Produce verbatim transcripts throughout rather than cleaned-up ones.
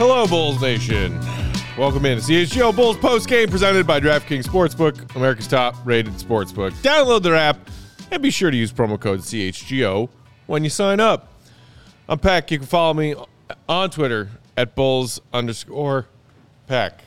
Hello, Bulls Nation. Welcome in to C H G O Bulls postgame presented by DraftKings Sportsbook, America's top-rated sportsbook. Download their app and be sure to use promo code C H G O when you sign up. I'm Pack. You can follow me on Twitter at Bulls underscore Pack.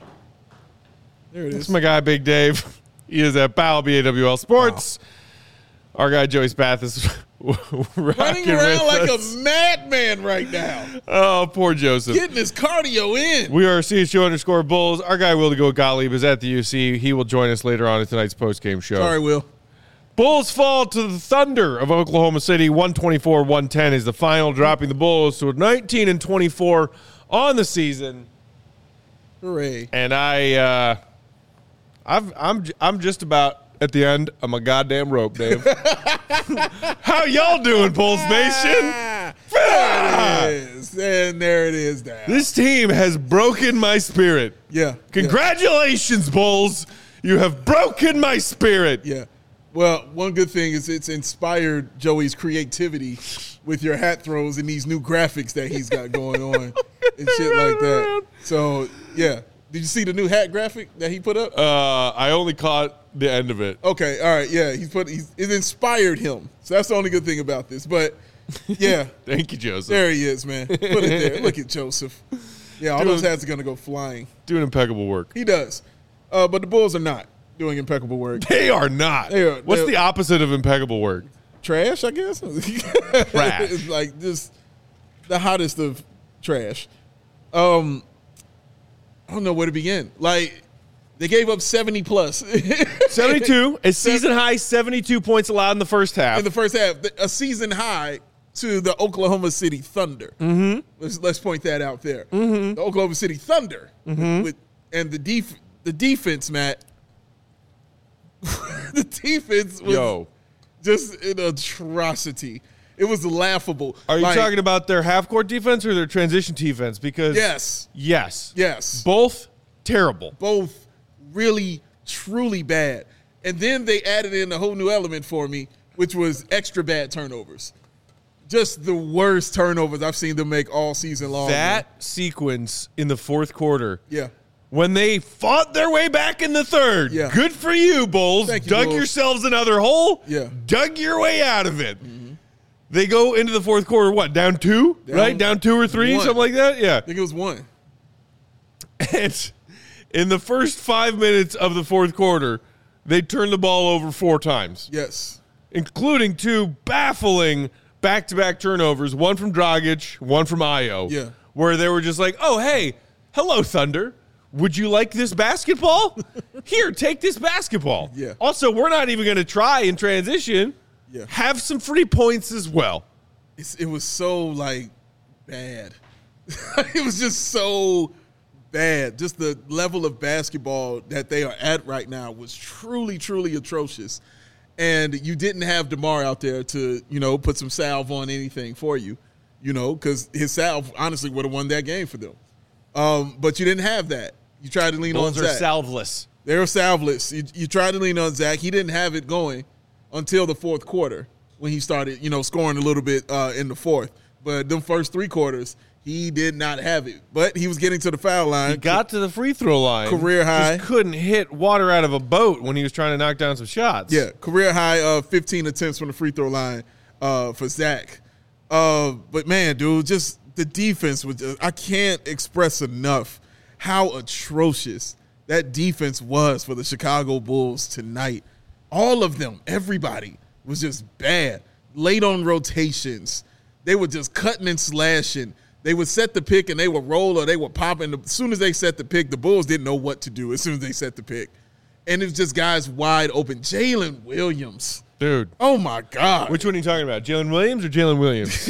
There it is. This is my guy, Big Dave. He is at Powell, B A W L Sports. Wow. Our guy, Joey Spath, is running around like us. a madman right now. Oh, poor Joseph. Getting his cardio in. We are C H G O underscore Bulls. Our guy, Will to Go Gottlieb, is at the U C. He will join us later on in tonight's postgame show. Sorry, Will. Bulls fall to the Thunder of Oklahoma City. one twenty-four one ten is the final, dropping the Bulls to nineteen and twenty-four on the season. Hooray. And I, uh, I've, I'm, I'm just about at the end of my goddamn rope, Dave. How y'all doing, Bulls Nation? There it is. And there it is now. This team has broken my spirit. Yeah. Congratulations, yeah. Bulls. You have broken my spirit. Yeah. Well, one good thing is it's inspired Joey's creativity with your hat throws and these new graphics that he's got going on and shit like that. So, yeah. Did you see the new hat graphic that he put up? Uh, I only caught the end of it. Okay, all right, yeah. He's put he's, it inspired him. So that's the only good thing about this. But, yeah. Thank you, Joseph. There he is, man. Put it there. Look at Joseph. Yeah, all doing, those hats are going to go flying. Doing impeccable work. He does. Uh, but the Bulls are not doing impeccable work. They are not. They are, What's the opposite of impeccable work? Trash, I guess. Trash. It's like just the hottest of trash. Um, I don't know where to begin. Like, they gave up seventy plus. seventy-two. A season high seventy-two points allowed in the first half. In the first half. A season high to the Oklahoma City Thunder. Mm-hmm. Let's, let's point that out there. Mm-hmm. The Oklahoma City Thunder. Mm-hmm. With, and the, def, the defense, Matt. The defense was Yo. just an atrocity. It was laughable. Are you like, talking about their half-court defense or their transition defense? Because yes. Yes. Yes. Both terrible. Both really, truly bad. And then they added in a whole new element for me, which was extra bad turnovers. Just the worst turnovers I've seen them make all season long. That man. sequence in the fourth quarter. Yeah. When they fought their way back in the third. Yeah. Good for you, Bulls. Thank you, Dug Bulls. yourselves another hole. Yeah. Dug your way out of it. Mm-hmm. They go into the fourth quarter, what, down two? Down right? Down two or three, one. something like that? Yeah. I think it was one. And in the first five minutes of the fourth quarter, they turned the ball over four times. Yes. Including two baffling back-to-back turnovers, one from Dragic, one from Ayo. Yeah. Where they were just like, oh, hey, hello, Thunder. Would you like this basketball? Here, take this basketball. Yeah. Also, we're not even going to try in transition. Yeah. Have some free points as well. It's, it was so, like, bad. It was just so bad. Just the level of basketball that they are at right now was truly, truly atrocious. And you didn't have DeMar out there to, you know, put some salve on anything for you, you know, because his salve honestly would have won that game for them. Um, but you didn't have that. You tried to lean Bulls on are Zach. salveless. They were salveless. You, you tried to lean on Zach. He didn't have it going until the fourth quarter when he started, you know, scoring a little bit uh, in the fourth. But them first three quarters, he did not have it. But he was getting to the foul line. He got to the free throw line. Career high. Just couldn't hit water out of a boat when he was trying to knock down some shots. Yeah, career high of uh, fifteen attempts from the free throw line uh, for Zach. Uh, but, man, dude, just the defense was just, I can't express enough how atrocious that defense was for the Chicago Bulls tonight. All of them, everybody, was just bad. Late on rotations. They were just cutting and slashing. They would set the pick and they would roll or they would pop. And as soon as they set the pick, the Bulls didn't know what to do as soon as they set the pick. And it was just guys wide open. Jalen Williams. Dude. Oh, my God. Which one are you talking about, Jalen Williams or Jalen Williams?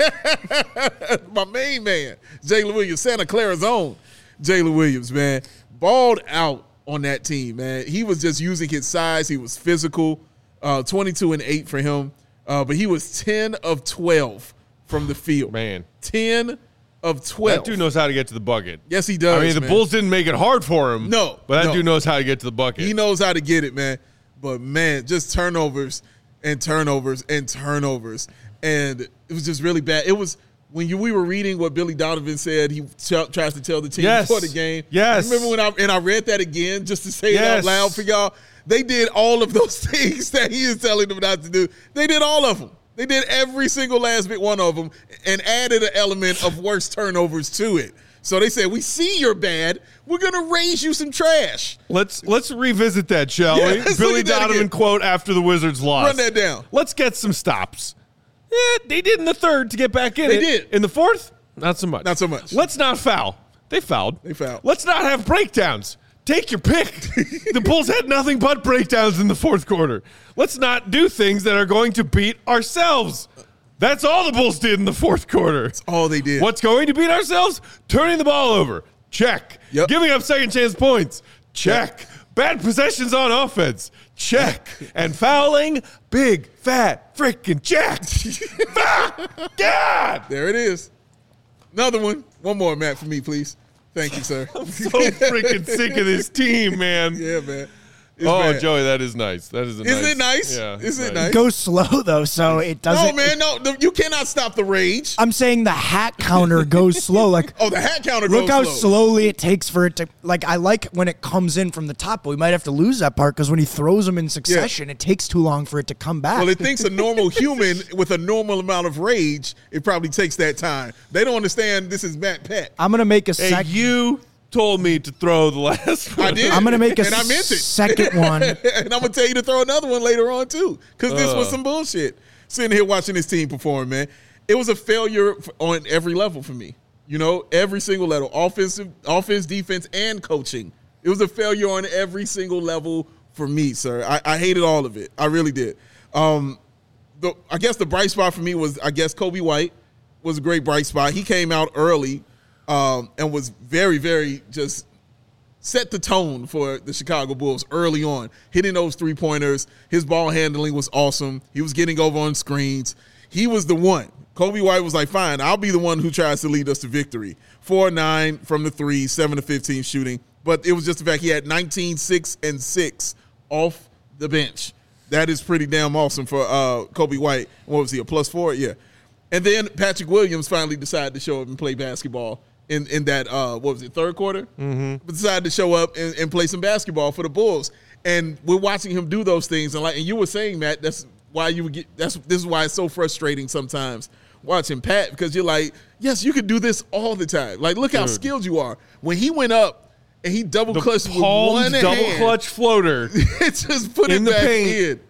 My main man, Jalen Williams, Santa Clara's own Jalen Williams, man. Balled out on that team, man. He was just using his size. He was physical, uh, twenty-two and eight for him. Uh, but he was ten of twelve from the field. Man. ten of twelve. That dude knows how to get to the bucket. Yes, he does, I mean, the man. Bulls didn't make it hard for him. No. But that no. dude knows how to get to the bucket. He knows how to get it, man. But, man, just turnovers and turnovers and turnovers. And it was just really bad. It was when you, we were reading what Billy Donovan said, he t- tries to tell the team yes. before the game. Yes. Remember when I and I read that again just to say yes. it out loud for y'all? They did all of those things that he is telling them not to do. They did all of them. They did every single last bit one of them and added an element of worse turnovers to it. So they said, we see you're bad. We're going to raise you some trash. Let's let's revisit that, shall Yeah, we? Billy Donovan again. quote after the Wizards lost. Run that down. Let's get some stops. Yeah, they did in the third to get back in They it. did. In the fourth, not so much. Not so much. Let's not foul. They fouled. They fouled. Let's not have breakdowns. Take your pick. The Bulls had nothing but breakdowns in the fourth quarter. Let's not do things that are going to beat ourselves. That's all the Bulls did in the fourth quarter. That's all they did. What's going to beat ourselves? Turning the ball over. Check. Yep. Giving up second chance points. Check. Bad possessions on offense. Check. And fouling. Big, fat, freaking check. God. There it is. Another one. One more, Matt, for me, please. Thank you, sir. I'm so freaking sick of this team, man. Yeah, man. It's oh, bad. Joey, that is nice. That is a Isn't nice. it nice? Yeah. Isn't it nice. nice? Go slow though, so it doesn't. No, man, no. the- You cannot stop the rage. I'm saying the hat counter goes slow. Like, Oh, the hat counter look goes how slow. slowly it takes for it to. Like, I like when it comes in from the top, but we might have to lose that part because when he throws them in succession, it takes too long for it to come back. Well, it thinks a normal human with a normal amount of rage, it probably takes that time. They don't understand this is Matt Peck. I'm gonna make a Hey, second. you told me to throw the last one. I did. I'm gonna make a and I meant it. second one. and I'm gonna tell you to throw another one later on too, because this was Uh. some bullshit. Sitting here watching this team perform, man, it was a failure f- on every level for me. You know, every single level, offensive, offense, defense, and coaching. It was a failure on every single level for me, sir. I, I hated all of it. I really did. Um, the I guess the bright spot for me was I guess Kobe White was a great bright spot. He came out early um, and was very, very just set the tone for the Chicago Bulls early on, hitting those three-pointers. His ball handling was awesome. He was getting over on screens. He was the one. Kobe White was like, fine, I'll be the one who tries to lead us to victory. four nine from the three, seven to fifteen shooting. But it was just the fact he had nineteen, six, and six off the bench. That is pretty damn awesome for uh, Kobe White. What was he, a plus four? Yeah. And then Patrick Williams finally decided to show up and play basketball in, in that, uh, what was it, third quarter? Mm-hmm. But decided to show up and, and play some basketball for the Bulls. And we're watching him do those things. And like, and you were saying, Matt, that's why you would get, that's, this is why it's so frustrating sometimes watching Pat, because you're like, yes, you could do this all the time. Like, look how Dude. skilled you are. When he went up and he double The clutched with palmed one double hand, clutch floater. it just put In it the back paint. in.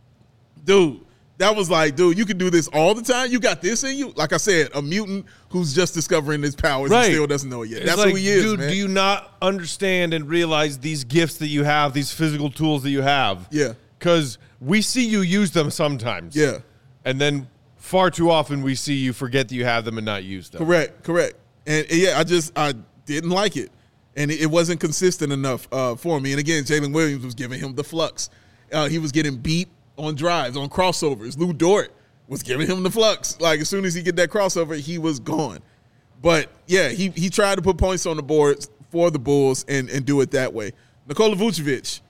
Dude, that was like, dude, you can do this all the time. You got this in you. Like I said, a mutant who's just discovering his powers Right. and still doesn't know it yet. It's That's like, who he is, dude, man. do you not understand and realize these gifts that you have, these physical tools that you have? Yeah. Because we see you use them sometimes. Yeah. And then far too often we see you forget that you have them and not use them. Correct, correct. And and yeah, I just I didn't like it, and it, it wasn't consistent enough uh, for me. And again, Jalen Williams was giving him the flux. Uh, he was getting beat on drives, on crossovers. Lou Dort was giving him the flux. Like as soon as he get that crossover, he was gone. But yeah, he he tried to put points on the board for the Bulls and and do it that way. Nikola Vucevic,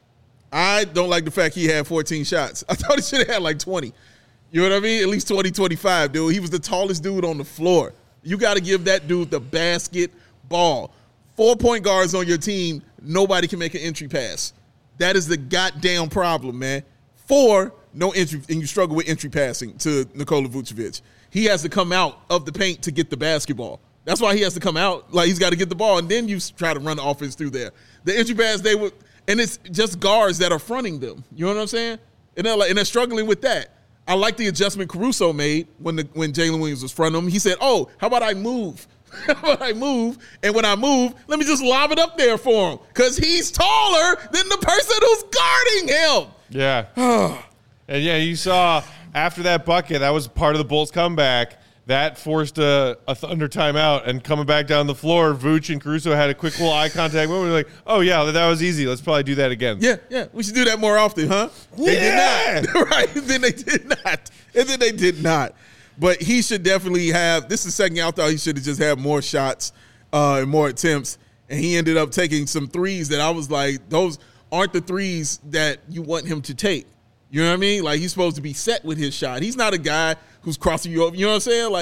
I don't like the fact he had fourteen shots. I thought he should have had like twenty. You know what I mean? At least twenty, twenty-five, dude. He was the tallest dude on the floor. You got to give that dude the basketball. Four point guards on your team, nobody can make an entry pass. That is the goddamn problem, man. Four, no entry, and you struggle with entry passing to Nikola Vucevic. He has to come out of the paint to get the basketball. That's why he has to come out. Like, he's got to get the ball, and then you try to run the offense through there. The entry pass, they would, and it's just guards that are fronting them. You know what I'm saying? And they're, like, and they're struggling with that. I like the adjustment Caruso made when the when Jalen Williams was fronting him. He said, oh, how about I move? How about I move? And when I move, let me just lob it up there for him because he's taller than the person who's guarding him. Yeah. And yeah, you saw after that bucket, that was part of the Bulls' comeback. That forced a, a Thunder timeout, and coming back down the floor, Vooch and Caruso had a quick little eye contact moment. We're like, oh, yeah, that was easy. Let's probably do that again. Yeah, yeah. We should do that more often, huh? They Yeah. did not. Right. Then they did not. And then they did not. But he should definitely have, this is the second I thought he should have just had more shots uh, and more attempts. And he ended up taking some threes that I was like, those aren't the threes that you want him to take. You know what I mean? Like, he's supposed to be set with his shot. He's not a guy who's crossing you over. You know what I'm saying? Like,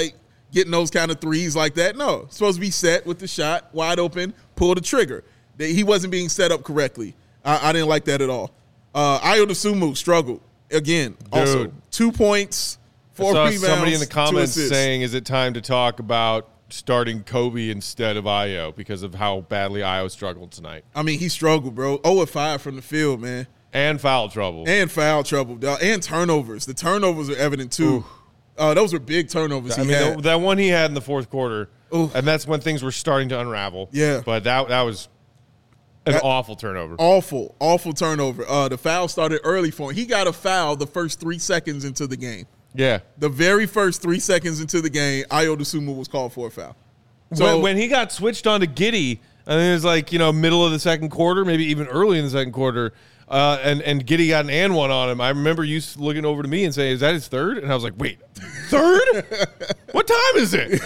getting those kind of threes like that. No, it's supposed to be set with the shot, wide open, pull the trigger. He wasn't being set up correctly. I, I didn't like that at all. Uh, Ayo Dosunmu struggled again. Dude. Also, two points, four I saw rebounds, somebody in the two comments assists. saying, "Is it time to talk about starting Kobe instead of Ayo because of how badly Ayo struggled tonight I mean, he struggled, bro. oh of five from the field, man. and foul trouble?" And foul trouble, dog. And turnovers. The turnovers are evident, too. Uh, those were big turnovers he I mean, had. the, that one he had in the fourth quarter, Oof. and that's when things were starting to unravel. Yeah. but that that was an That- awful turnover. Awful, awful turnover. Uh, the foul started early for him. He got a foul the first three seconds into the game. Yeah, The very first three seconds into the game, Ayo Dosunmu was called for a foul. So when, when he got switched on to Giddey, I think it was like, you know, middle of the second quarter, maybe even early in the second quarter, uh, and, and Giddey got an and one on him. I remember you looking over to me and saying, "Is that his third?" And I was like, wait, third? What time is it?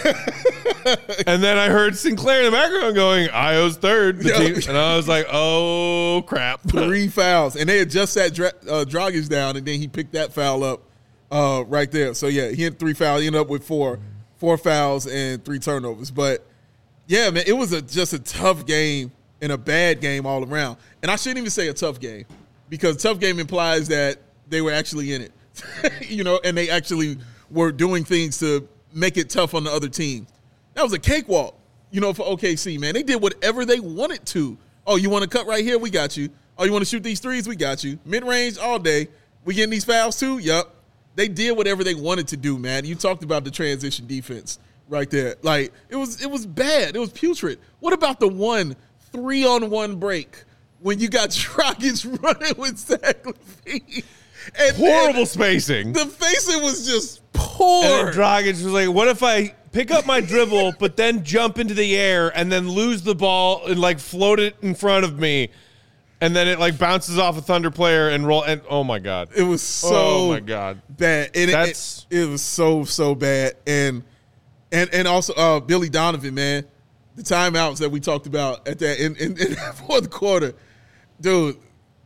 And then I heard Sinclair in the background going, "Ayo's third." The Yo. team. And I was like, oh, crap. three fouls, and they had just sat Dra- uh, Dragic down, and then he picked that foul up uh, right there. So yeah, he had three fouls. He ended up with four, four fouls and three turnovers. But yeah, man, it was a, just a tough game and a bad game all around. And I shouldn't even say a tough game, because tough game implies that they were actually in it, you know, and they actually were doing things to make it tough on the other team. That was a cakewalk, you know, for O K C, man. They did whatever they wanted to. Oh, you want to cut right here? We got you. Oh, you want to shoot these threes? We got you. Mid-range all day. We getting these fouls too? Yup. They did whatever they wanted to do, man. You talked about the transition defense right there. Like, it was it was bad. It was putrid. What about the one three-on-one break when you got Dragic running with Zach LaVine? And, Horrible and spacing. the facing was just poor. And then Dragic was like, what if I pick up my dribble, but then jump into the air and then lose the ball and like float it in front of me, and then it like bounces off a Thunder player and roll, and oh my God. It was so Oh my God. bad. And it, That's- it, it was so, so bad. And and and also uh, Billy Donovan, man, the timeouts that we talked about at that in, in, in that fourth quarter. Dude,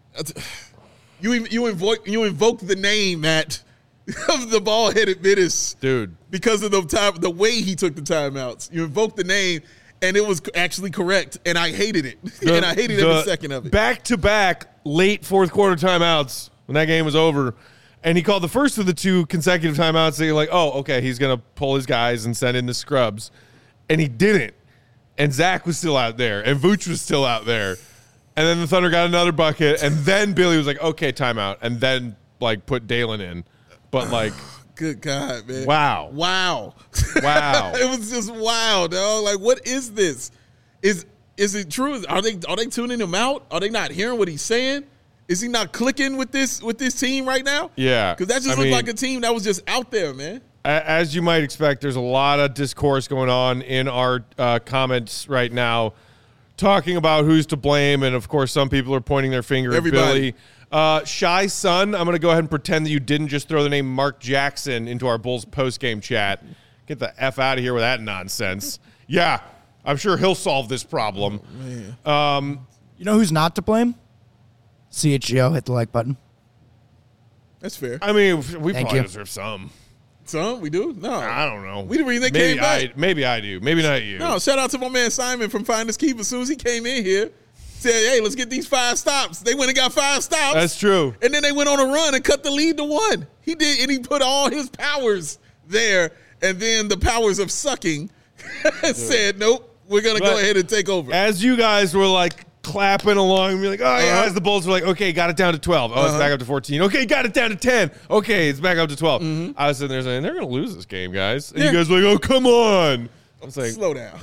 you you invoke you invoked the name, Matt, of the ball-headed menace. Dude. Because of the time, the way he took the timeouts. You invoked the name, and it was actually correct, and I hated it. and I hated every second of it. Back-to-back late fourth quarter timeouts when that game was over, and he called the first of the two consecutive timeouts. So you're like, oh, okay, he's going to pull his guys and send in the scrubs. And he didn't. And Zach was still out there, and Vooch was still out there. And then the Thunder got another bucket, and then Billy was like, okay, timeout, and then, like, put Dalen in. But, like, Good God, man. wow. Wow. Wow. It was just wild, dog. Like, what is this? Is is it true? Are they are they tuning him out? Are they not hearing what he's saying? Is he not clicking with this with this team right now? Yeah. Because that just I looked mean- like a team that was just out there, man. A- As you might expect, there's a lot of discourse going on in our uh, comments right now, talking about who's to blame, and of course, some people are pointing their finger Everybody. at Billy. Uh, Shy Son, I'm going to go ahead and pretend that you didn't just throw the name Mark Jackson into our Bulls post-game chat. Get the F out of here with that nonsense. Yeah, I'm sure he'll solve this problem. Um, You know who's not to blame? C H G O, hit the like button. That's fair. I mean, we Thank probably you. deserve some. Some we do? No. I don't know. We the reason they maybe came back. I, maybe I do. Maybe not you. No, shout out to my man Simon from Finders Keep. As soon as he came in here, said, hey, let's get these five stops. They went and got five stops. That's true. And then they went on a run and cut the lead to one. He did, and he put all his powers there. And then the powers of sucking said, nope, we're going to go But ahead and take over. As you guys were like clapping along and be like, oh, yeah, Uh-huh. as the Bulls were like, okay, got it down to twelve. Oh, it's Uh-huh. back up to fourteen. Okay, got it down to ten. Okay, it's back up to twelve. Mm-hmm. I was sitting there saying, they're going to lose this game, guys. And Yeah. you guys were like, oh, come on. I was like, Slow down.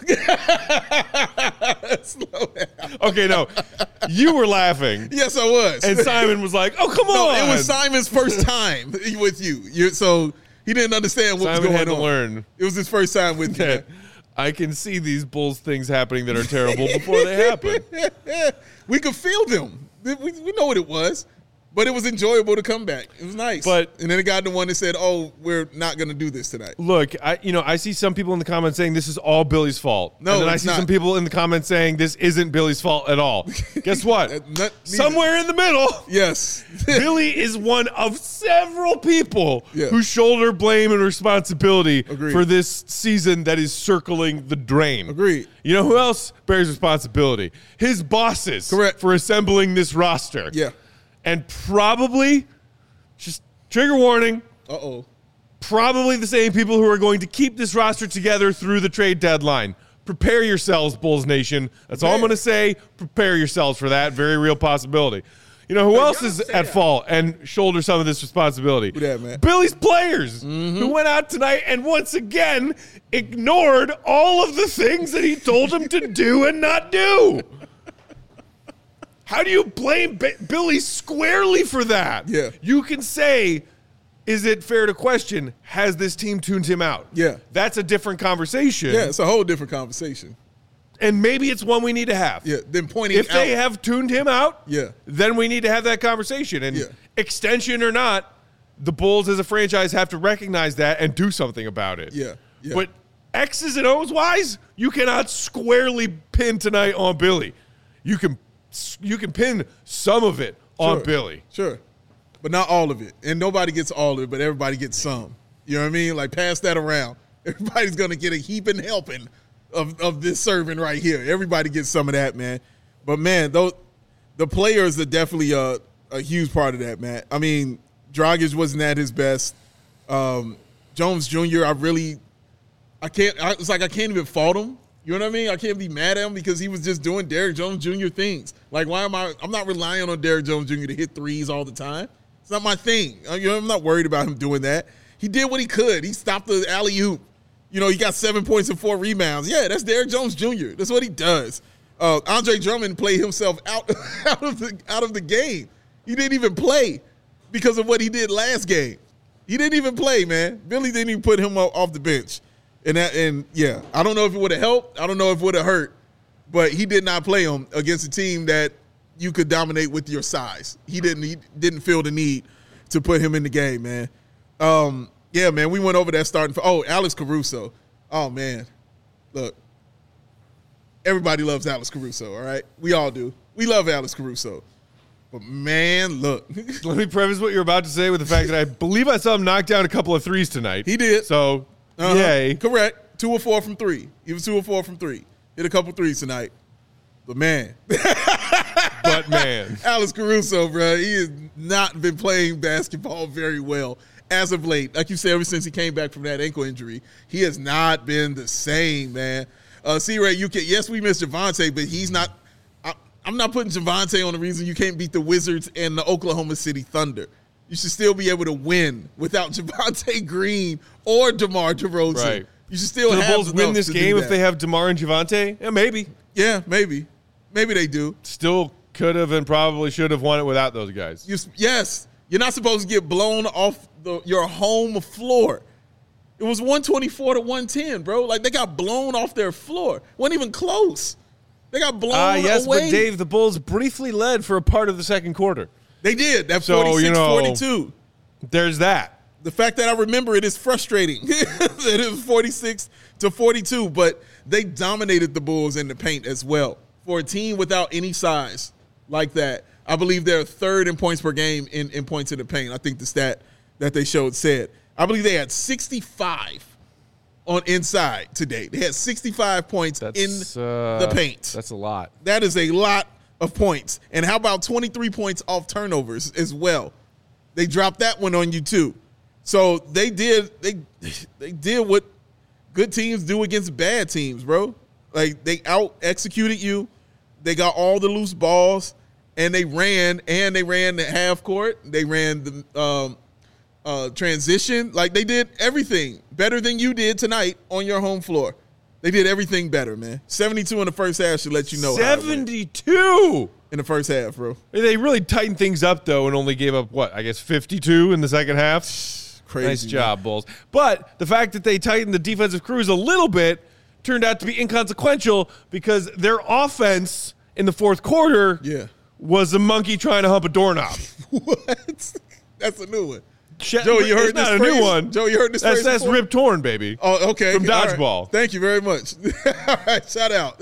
Slow down. okay, no. You were laughing. Yes, I was. And Simon was like, oh, come no, on. it was Simon's first time with you. you so he didn't understand what Simon was going had to on. learn It was his first time with you. that I can see these Bulls things happening that are terrible before they happen. We could feel them. We, we know what it was. But it was enjoyable to come back. It was nice. But and then it got the one that said, "Oh, we're not going to do this tonight." Look, I you know I see some people in the comments saying this is all Billy's fault. No, and then I it's see not. some people in the comments saying this isn't Billy's fault at all. Guess what? Not- neither. Somewhere in the middle, Yes. Billy is one of several people Yeah. who shoulder blame and responsibility Agreed. for this season that is circling the drain. Agreed. You know who else bears responsibility? His bosses. Correct. For assembling this roster. Yeah. And probably, just trigger warning, Uh oh. probably the same people who are going to keep this roster together through the trade deadline. Prepare yourselves, Bulls Nation. That's all I'm going to say. Prepare yourselves for that very real possibility. You know who else y'all is say at that. fault and shoulder some of this responsibility? Who that, man? Billy's players who went out tonight and once again ignored all of the things that he told them to do and not do. How do you blame B- Billy squarely for that? Yeah. You can say, is it fair to question, has this team tuned him out? Yeah. That's a different conversation. Yeah, it's a whole different conversation. And maybe it's one we need to have. Yeah, then pointing If they out- have tuned him out, Yeah. then we need to have that conversation. And Yeah. extension or not, the Bulls as a franchise have to recognize that and do something about it. Yeah, yeah. But X's and O's wise, you cannot squarely pin tonight on Billy. You can you can pin some of it on Sure. Billy. Sure. But not all of it. And nobody gets all of it, but everybody gets some. You know what I mean? Like, pass that around. Everybody's going to get a heaping helping of, of this serving right here. Everybody gets some of that, man. But, man, those, the players are definitely a, a huge part of that, man. I mean, Dragic wasn't at his best. Um, Jones Junior, I really – I can't – it's like I can't even fault him. You know what I mean? I can't be mad at him because he was just doing Derrick Jones Junior things. Like, why am I – I'm not relying on Derrick Jones Junior to hit threes all the time. It's not my thing. You know, I'm not worried about him doing that. He did what he could. He stopped the alley-oop. You know, he got seven points and four rebounds. Yeah, that's Derrick Jones Junior That's what he does. Uh, Andre Drummond played himself out, out of the out of the game. He didn't even play because of what he did last game. He didn't even play, man. Billy didn't even put him off the bench. And that, and yeah, I don't know if it would have helped. I don't know if it would have hurt. But he did not play him against a team that you could dominate with your size. He didn't he didn't feel the need to put him in the game, man. Um, yeah, man, we went over that starting. Oh, Alex Caruso. Oh, man. Look, everybody loves Alex Caruso, all right? We all do. We love Alex Caruso. But, man, look. Let me preface what you're about to say with the fact that I believe I saw him knock down a couple of threes tonight. He did. So, Uh-huh. yay. Correct. Two or four from three. He was two or four from three. Hit a couple threes tonight. But, man. But, man. Alex Caruso, bro, he has not been playing basketball very well as of late. Like you said, ever since he came back from that ankle injury, he has not been the same, man. Uh, C-Ray, you can, yes, we miss Javonte, but he's not I, – I'm not putting Javonte on the reason you can't beat the Wizards and the Oklahoma City Thunder. You should still be able to win without Javonte Green or DeMar DeRozan. Right. You should still Do the have Bulls win enough this to do game if that. they have DeMar and Javonte? Yeah, maybe. Yeah, maybe. Maybe they do. Still could have and probably should have won it without those guys. You, yes. You're not supposed to get blown off the, your home floor. It was one twenty-four to one ten, bro. Like, they got blown off their floor. Wasn't even close. They got blown Ah, yes, away. but Dave, the Bulls briefly led for a part of the second quarter. They did. That So, you forty-six know, forty-two. There's that. The fact that I remember it is frustrating that it was forty-six to forty-two, but they dominated the Bulls in the paint as well. For a team without any size like that, I believe they're third in points per game in, in points in the paint. I think the stat that they showed said. I believe they had sixty-five on inside today. They had sixty-five points That's, in uh, the paint. That's a lot. That is a lot of points. And how about twenty-three points off turnovers as well? They dropped that one on you too. So they did they they did what good teams do against bad teams, bro. Like, they out executed you. They got all the loose balls, and they ran and they ran the half court. They ran the um, uh, transition. Like, they did everything better than you did tonight on your home floor. They did everything better, man. seventy-two in the first half should let you know. how it went. seventy-two In the first half, bro. They really tightened things up, though, and only gave up, what, I guess fifty-two in the second half? Crazy. Nice job, Bulls. But the fact that they tightened the defensive crews a little bit turned out to be inconsequential because their offense in the fourth quarter Yeah. was a monkey trying to hump a doorknob. What? That's a new one. Sh- Joey, you heard it's this not a phrase? new one. Joey, you heard this That's, phrase that's before? Rip Torn, baby. Oh, okay. From All right. Dodgeball. Thank you very much. All right, shout out.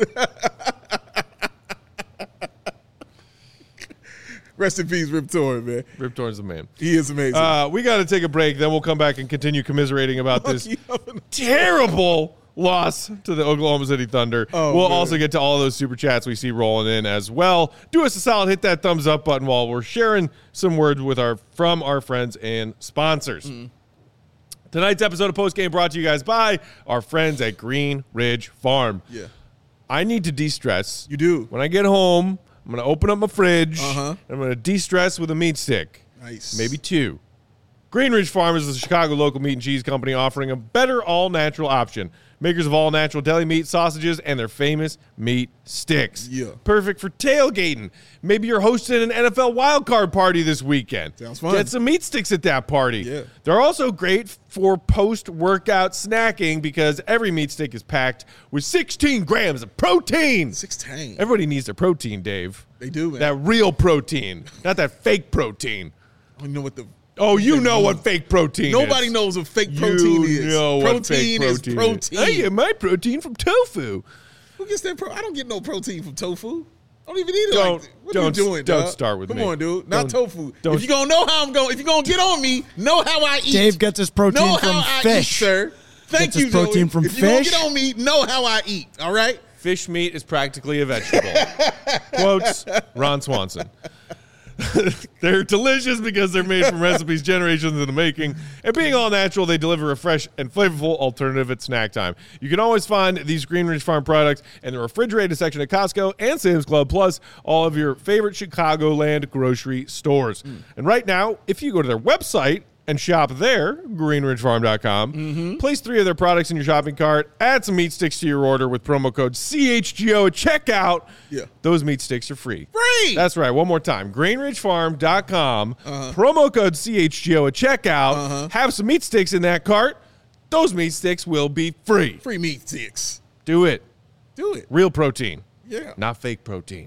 Rest in peace, Rip Torn, man. Rip Torn's the man. He is amazing. Uh, we got to take a break. Then we'll come back and continue commiserating about this terrible loss to the Oklahoma City Thunder. Oh, we'll man. also get to all those super chats we see rolling in as well. Do us a solid, hit that thumbs up button while we're sharing some words with our from our friends and sponsors. Mm. Tonight's episode of Post Game brought to you guys by our friends at Green Ridge Farm. Yeah. I need to de-stress. You do. When I get home, I'm going to open up my fridge. Uh-huh. And I'm going to de-stress with a meat stick. Nice. Maybe two. Green Ridge Farm is the Chicago local meat and cheese company offering a better all-natural option. Makers of all-natural deli meat, sausages, and their famous meat sticks. Yeah. Perfect for tailgating. Maybe you're hosting an N F L wildcard party this weekend. Sounds fun. Get some meat sticks at that party. Yeah. They're also great for post-workout snacking because every meat stick is packed with sixteen grams of protein. sixteen. Everybody needs their protein, Dave. They do, man. That real protein, not that fake protein. I don't even know what the... Oh, you know what fake protein Nobody is. knows what fake protein you is. know protein what fake protein is protein. Is. I get my protein from tofu. Who gets that? Pro- I don't get no protein from tofu. I don't even eat it Don't- like that. What don't- are you doing, don't dog? start with Come me. on, dude. Not Don't- tofu. don't- If you're going to know how I'm going, if you're going to get on me, know how I eat. Dave gets his protein know from how I fish. eat, sir. Thank Gets you, his protein Joey. from if you're going to fish. get on me, know how I eat, all right? Fish meat is practically a vegetable. Quotes, Ron Swanson. They're delicious because they're made from recipes generations in the making. And being all natural, they deliver a fresh and flavorful alternative at snack time. You can always find these Green Ridge Farm products in the refrigerated section at Costco and Sam's Club, plus all of your favorite Chicagoland grocery stores. Mm. And right now, if you go to their website and shop there, green ridge farm dot com. Mm-hmm. Place three of their products in your shopping cart. Add some meat sticks to your order with promo code C H G O at checkout. Yeah. Those meat sticks are free. Free! That's right. One more time. green ridge farm dot com. Uh-huh. Promo code C H G O at checkout. Uh-huh. Have some meat sticks in that cart. Those meat sticks will be free. Free meat sticks. Do it. Do it. Real protein. Yeah. Not fake protein.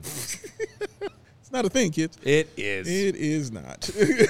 It's not a thing, kids. It is. It is not.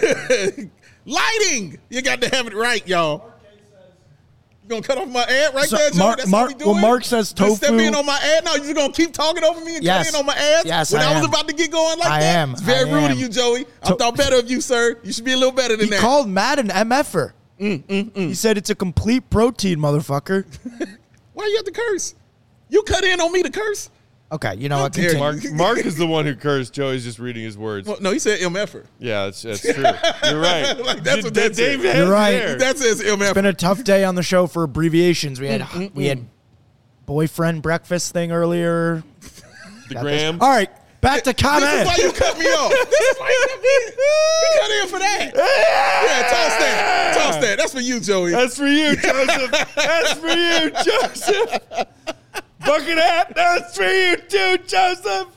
Lighting! You got to have it right, y'all. You gonna cut off my ad right So, there, Joey? Mark- That's Mark- how we doing? well, Mark says Just step tofu- in on my ad. No, you just gonna keep talking over me and Yes. cut in on my ads Yes, when I I, was am. about to get going like I that? am. It's very I rude am. of you, Joey. I To- thought better of you, sir. You should be a little better than He that. called Matt an M F-er. Mm, mm, mm. He said it's a complete protein, motherfucker. Why you have to curse? You cut in on me to curse? Okay, you know How what? dare Continue. Mark, Mark is the one who cursed. Joey's just reading his words. Well, no, he said M F er. Yeah, that's, that's true. You're right. Like, that's what D- that Dave said. has You're right. there. That says M F It's er. been a tough day on the show for abbreviations. We had Mm, we had boyfriend breakfast thing earlier. the Got gram. this. All right, back to This is comment. why you cut me off. This is why you cut me in. You cut in for that. Yeah, toss that. Toss that. That's for you, Joey. That's for you, Joseph. That's for you, Joseph. Bucket hat. That's for you too, Joseph.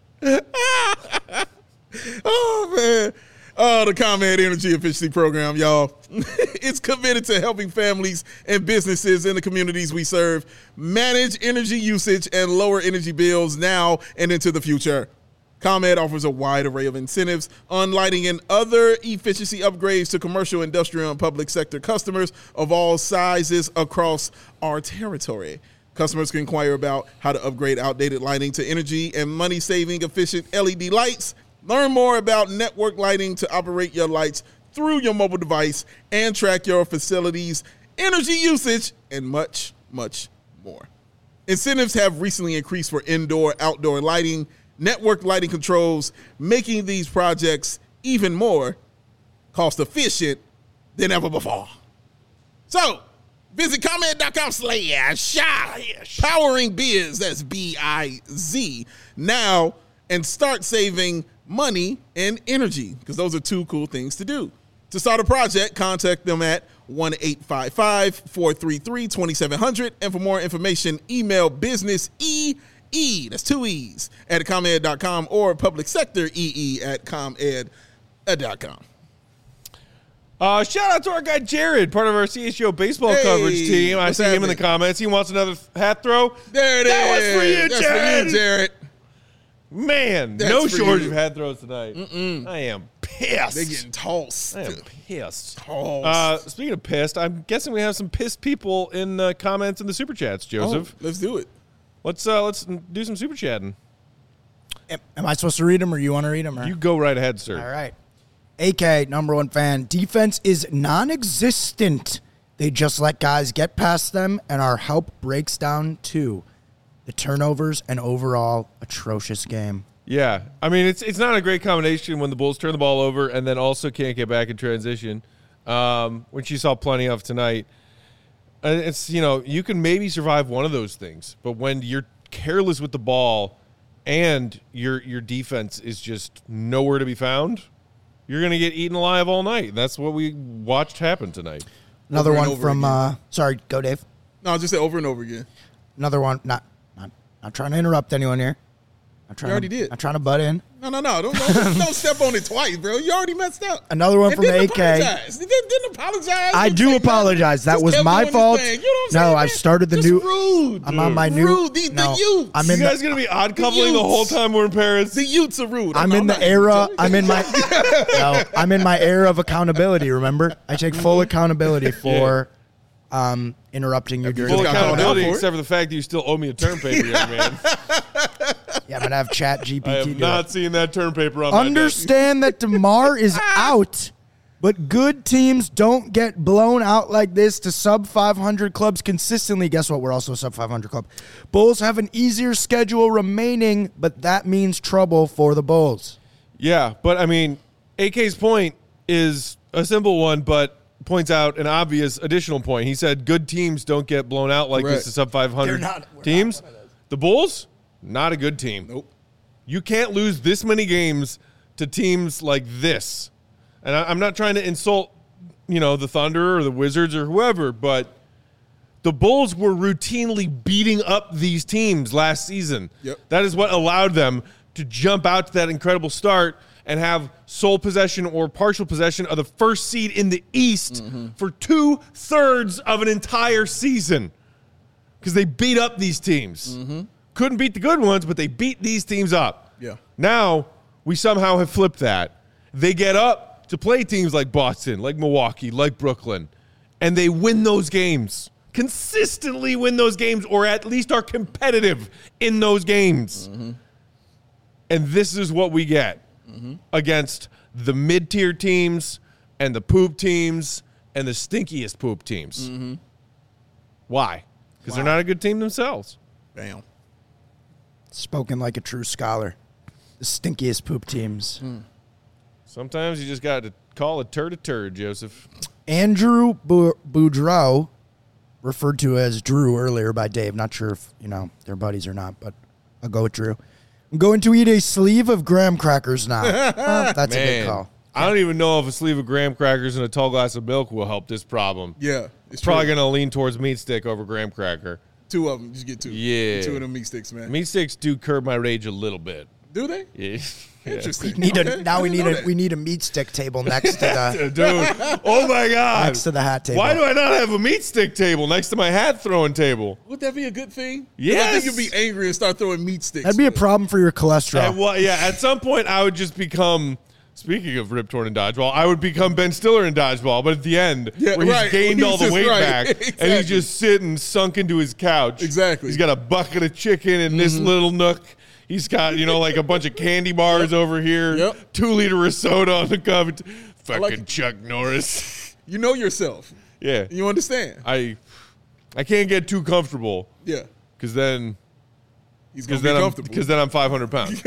Oh, man. Oh, the ComEd Energy Efficiency Program, y'all. It's committed to helping families and businesses in the communities we serve manage energy usage and lower energy bills now and into the future. ComEd offers a wide array of incentives on lighting and other efficiency upgrades to commercial, industrial, and public sector customers of all sizes across our territory. Customers can inquire about how to upgrade outdated lighting to energy and money-saving efficient L E D lights. Learn more about network lighting to operate your lights through your mobile device and track your facility's energy usage and much, much more. Incentives have recently increased for indoor, outdoor lighting, network lighting controls, making these projects even more cost-efficient than ever before. So, visit ComEd.com slash powering biz, that's B I Z, now and start saving money and energy, because those are two cool things to do. To start a project, contact them at one eight five five, four three three, two seven zero zero, and for more information, email business E E, that's two E's, at ComEd dot com or public sector E E at ComEd dot com. Uh, shout out to our guy Jared, part of our C H G O baseball Hey, coverage team. I what's see him in the happening? comments. He wants another hat throw. There it That is. was for you, That's Jared. for you, Jared. Man, That's no for shortage you. of head throws tonight. Mm-mm. I am pissed. They're getting tossed. I am pissed. Tossed. Uh, speaking of pissed, I'm guessing we have some pissed people in the comments in the super chats, Joseph. Oh, let's do it. Let's uh, let's do some super chatting. Am, am I supposed to read them or you want to read them? Or? You go right ahead, sir. All right. A K, number one fan. Defense is non-existent. They just let guys get past them, and our help breaks down too. The turnovers and overall atrocious game. Yeah, I mean it's it's not a great combination when the Bulls turn the ball over and then also can't get back in transition, um, which you saw plenty of tonight. Uh, It's you know you can maybe survive one of those things, but when you're careless with the ball and your your defense is just nowhere to be found, you're gonna get eaten alive all night. That's what we watched happen tonight. Another Over and one over from, again. uh, sorry, go Dave. No, I'll just say over and over again. Another one, not, not, not trying to interrupt anyone here. I'm trying You already to, did. I'm trying to butt in. No, no, no. Don't, don't, don't step on it twice, bro. You already messed up. Another one And from didn't A K. apologize. Didn't, didn't apologize. I Didn't do say nothing. apologize. That Just was kept my doing his fault. thing. You know what I'm No, saying, I've man? started the Just new- rude. I'm on my new. Rude. The, no, the youth. I'm You in guys the, gonna be odd coupling the youths. whole time we're in Paris? The youths are rude. I'm No, in the not era. you. I'm in my. no, I'm in my era of accountability. Remember, I take full accountability for um, interrupting you during Full the got called out accountability, for it. except for the fact that you still owe me a term paper, young man. Yeah, I'm gonna have Chat G P T I do have it. not seen that term paper on my desk. Understand that DeMar is out, but good teams don't get blown out like this to sub five hundred clubs consistently. Guess what? We're also a sub five hundred club. Bulls have an easier schedule remaining, but that means trouble for the Bulls. Yeah, but I mean, A K's point is a simple one, but points out an obvious additional point. He said good teams don't get blown out like Correct. this to sub five hundred They're not- we're teams. not one of those. The Bulls, not a good team. Nope. You can't lose this many games to teams like this. And I, I'm not trying to insult, you know, the Thunder or the Wizards or whoever, but the Bulls were routinely beating up these teams last season. Yep. That is what allowed them to jump out to that incredible start and have sole possession or partial possession of the first seed in the East for two-thirds of an entire season because they beat up these teams. Couldn't beat the good ones, but they beat these teams up. Yeah. Now, we somehow have flipped that. They get up to play teams like Boston, like Milwaukee, like Brooklyn, and they win those games. Consistently win those games, or at least are competitive in those games. And this is what we get against the mid-tier teams and the poop teams and the stinkiest poop teams. Why? Because they're not a good team themselves. Bam. Spoken like a true scholar. The stinkiest poop teams. Sometimes you just got to call a turd a turd, Joseph. Andrew Bu- Boudreau, referred to as Drew earlier by Dave. Not sure if, you know, they're buddies or not, but I'll go with Drew. I'm going to eat a sleeve of graham crackers now. Well, that's a good Man, call. I don't even know if a sleeve of graham crackers and a tall glass of milk will help this problem. Yeah. It's Probably true. going to lean towards meat stick over graham cracker. Two of them. Just get two. Yeah. Get two of them meat sticks, man. Meat sticks do curb my rage a little bit. Do they? Yeah. Interesting. We need a, Okay. now I we didn't need know a that. we need a meat stick table next to the Dude, oh my God. next to the hat table. Why do I not have a meat stick table next to my hat throwing table? Would that be a good thing? 'Cause I Yes. think you'd be angry and start throwing meat sticks. That'd be a problem for your cholesterol. At what- yeah, at some point I would just become, speaking of Rip Torn and Dodgeball, I would become Ben Stiller in Dodgeball, but at the end, Yeah, where he's right. gained He's all the just weight right. back, and Exactly. he's just sitting sunk into his couch. Exactly. He's got a bucket of chicken in this little nook. He's got, you know, like a bunch of candy bars over here, Yep. two liter of soda on the cover. Fucking like it. Chuck Norris. You know yourself. Yeah. You understand? I I can't get too comfortable Yeah. because then He's going because to be then I'm comfortable. because then I'm five hundred pounds.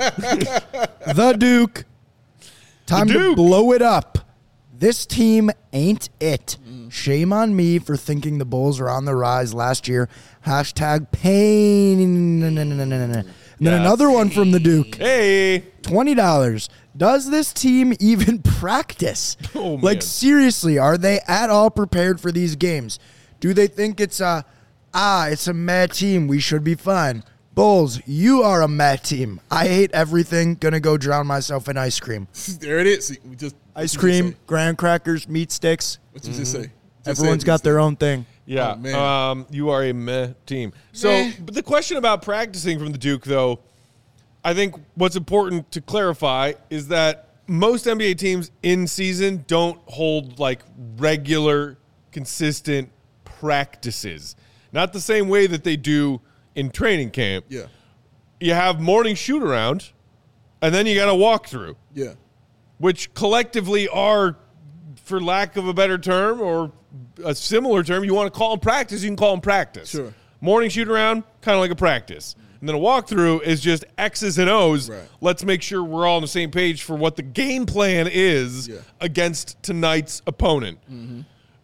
The Duke. Time The to Duke. blow it up. This team ain't it. Shame on me for thinking the Bulls were on the rise last year. Hashtag pain. And then Yeah. another one from the Duke. Hey. twenty dollars. Does this team even practice? Oh, man. Like, seriously, are they at all prepared for these games? Do they think it's a, ah, it's a mad team, we should be fine? Bulls, you are a mad team. I hate everything. Gonna go drown myself in ice cream. There it is. See, we just Ice what you cream, just say. graham crackers, meat sticks. What you just say? Just Everyone's say got meat their own thing. Yeah, Oh, man. um, you are a meh team. So, Meh. but the question about practicing from the Duke, though, I think what's important to clarify is that most N B A teams in season don't hold like regular, consistent practices. Not the same way that they do in training camp. Yeah. You have morning shoot around, and then you got a walkthrough. Yeah. Which collectively are, for lack of a better term or a similar term, you want to call them practice, you can call them practice. Sure. Morning shoot around, kind of like a practice. And then a walkthrough is just X's and O's. Right. Let's make sure we're all on the same page for what the game plan is Yeah. against tonight's opponent. Mm-hmm.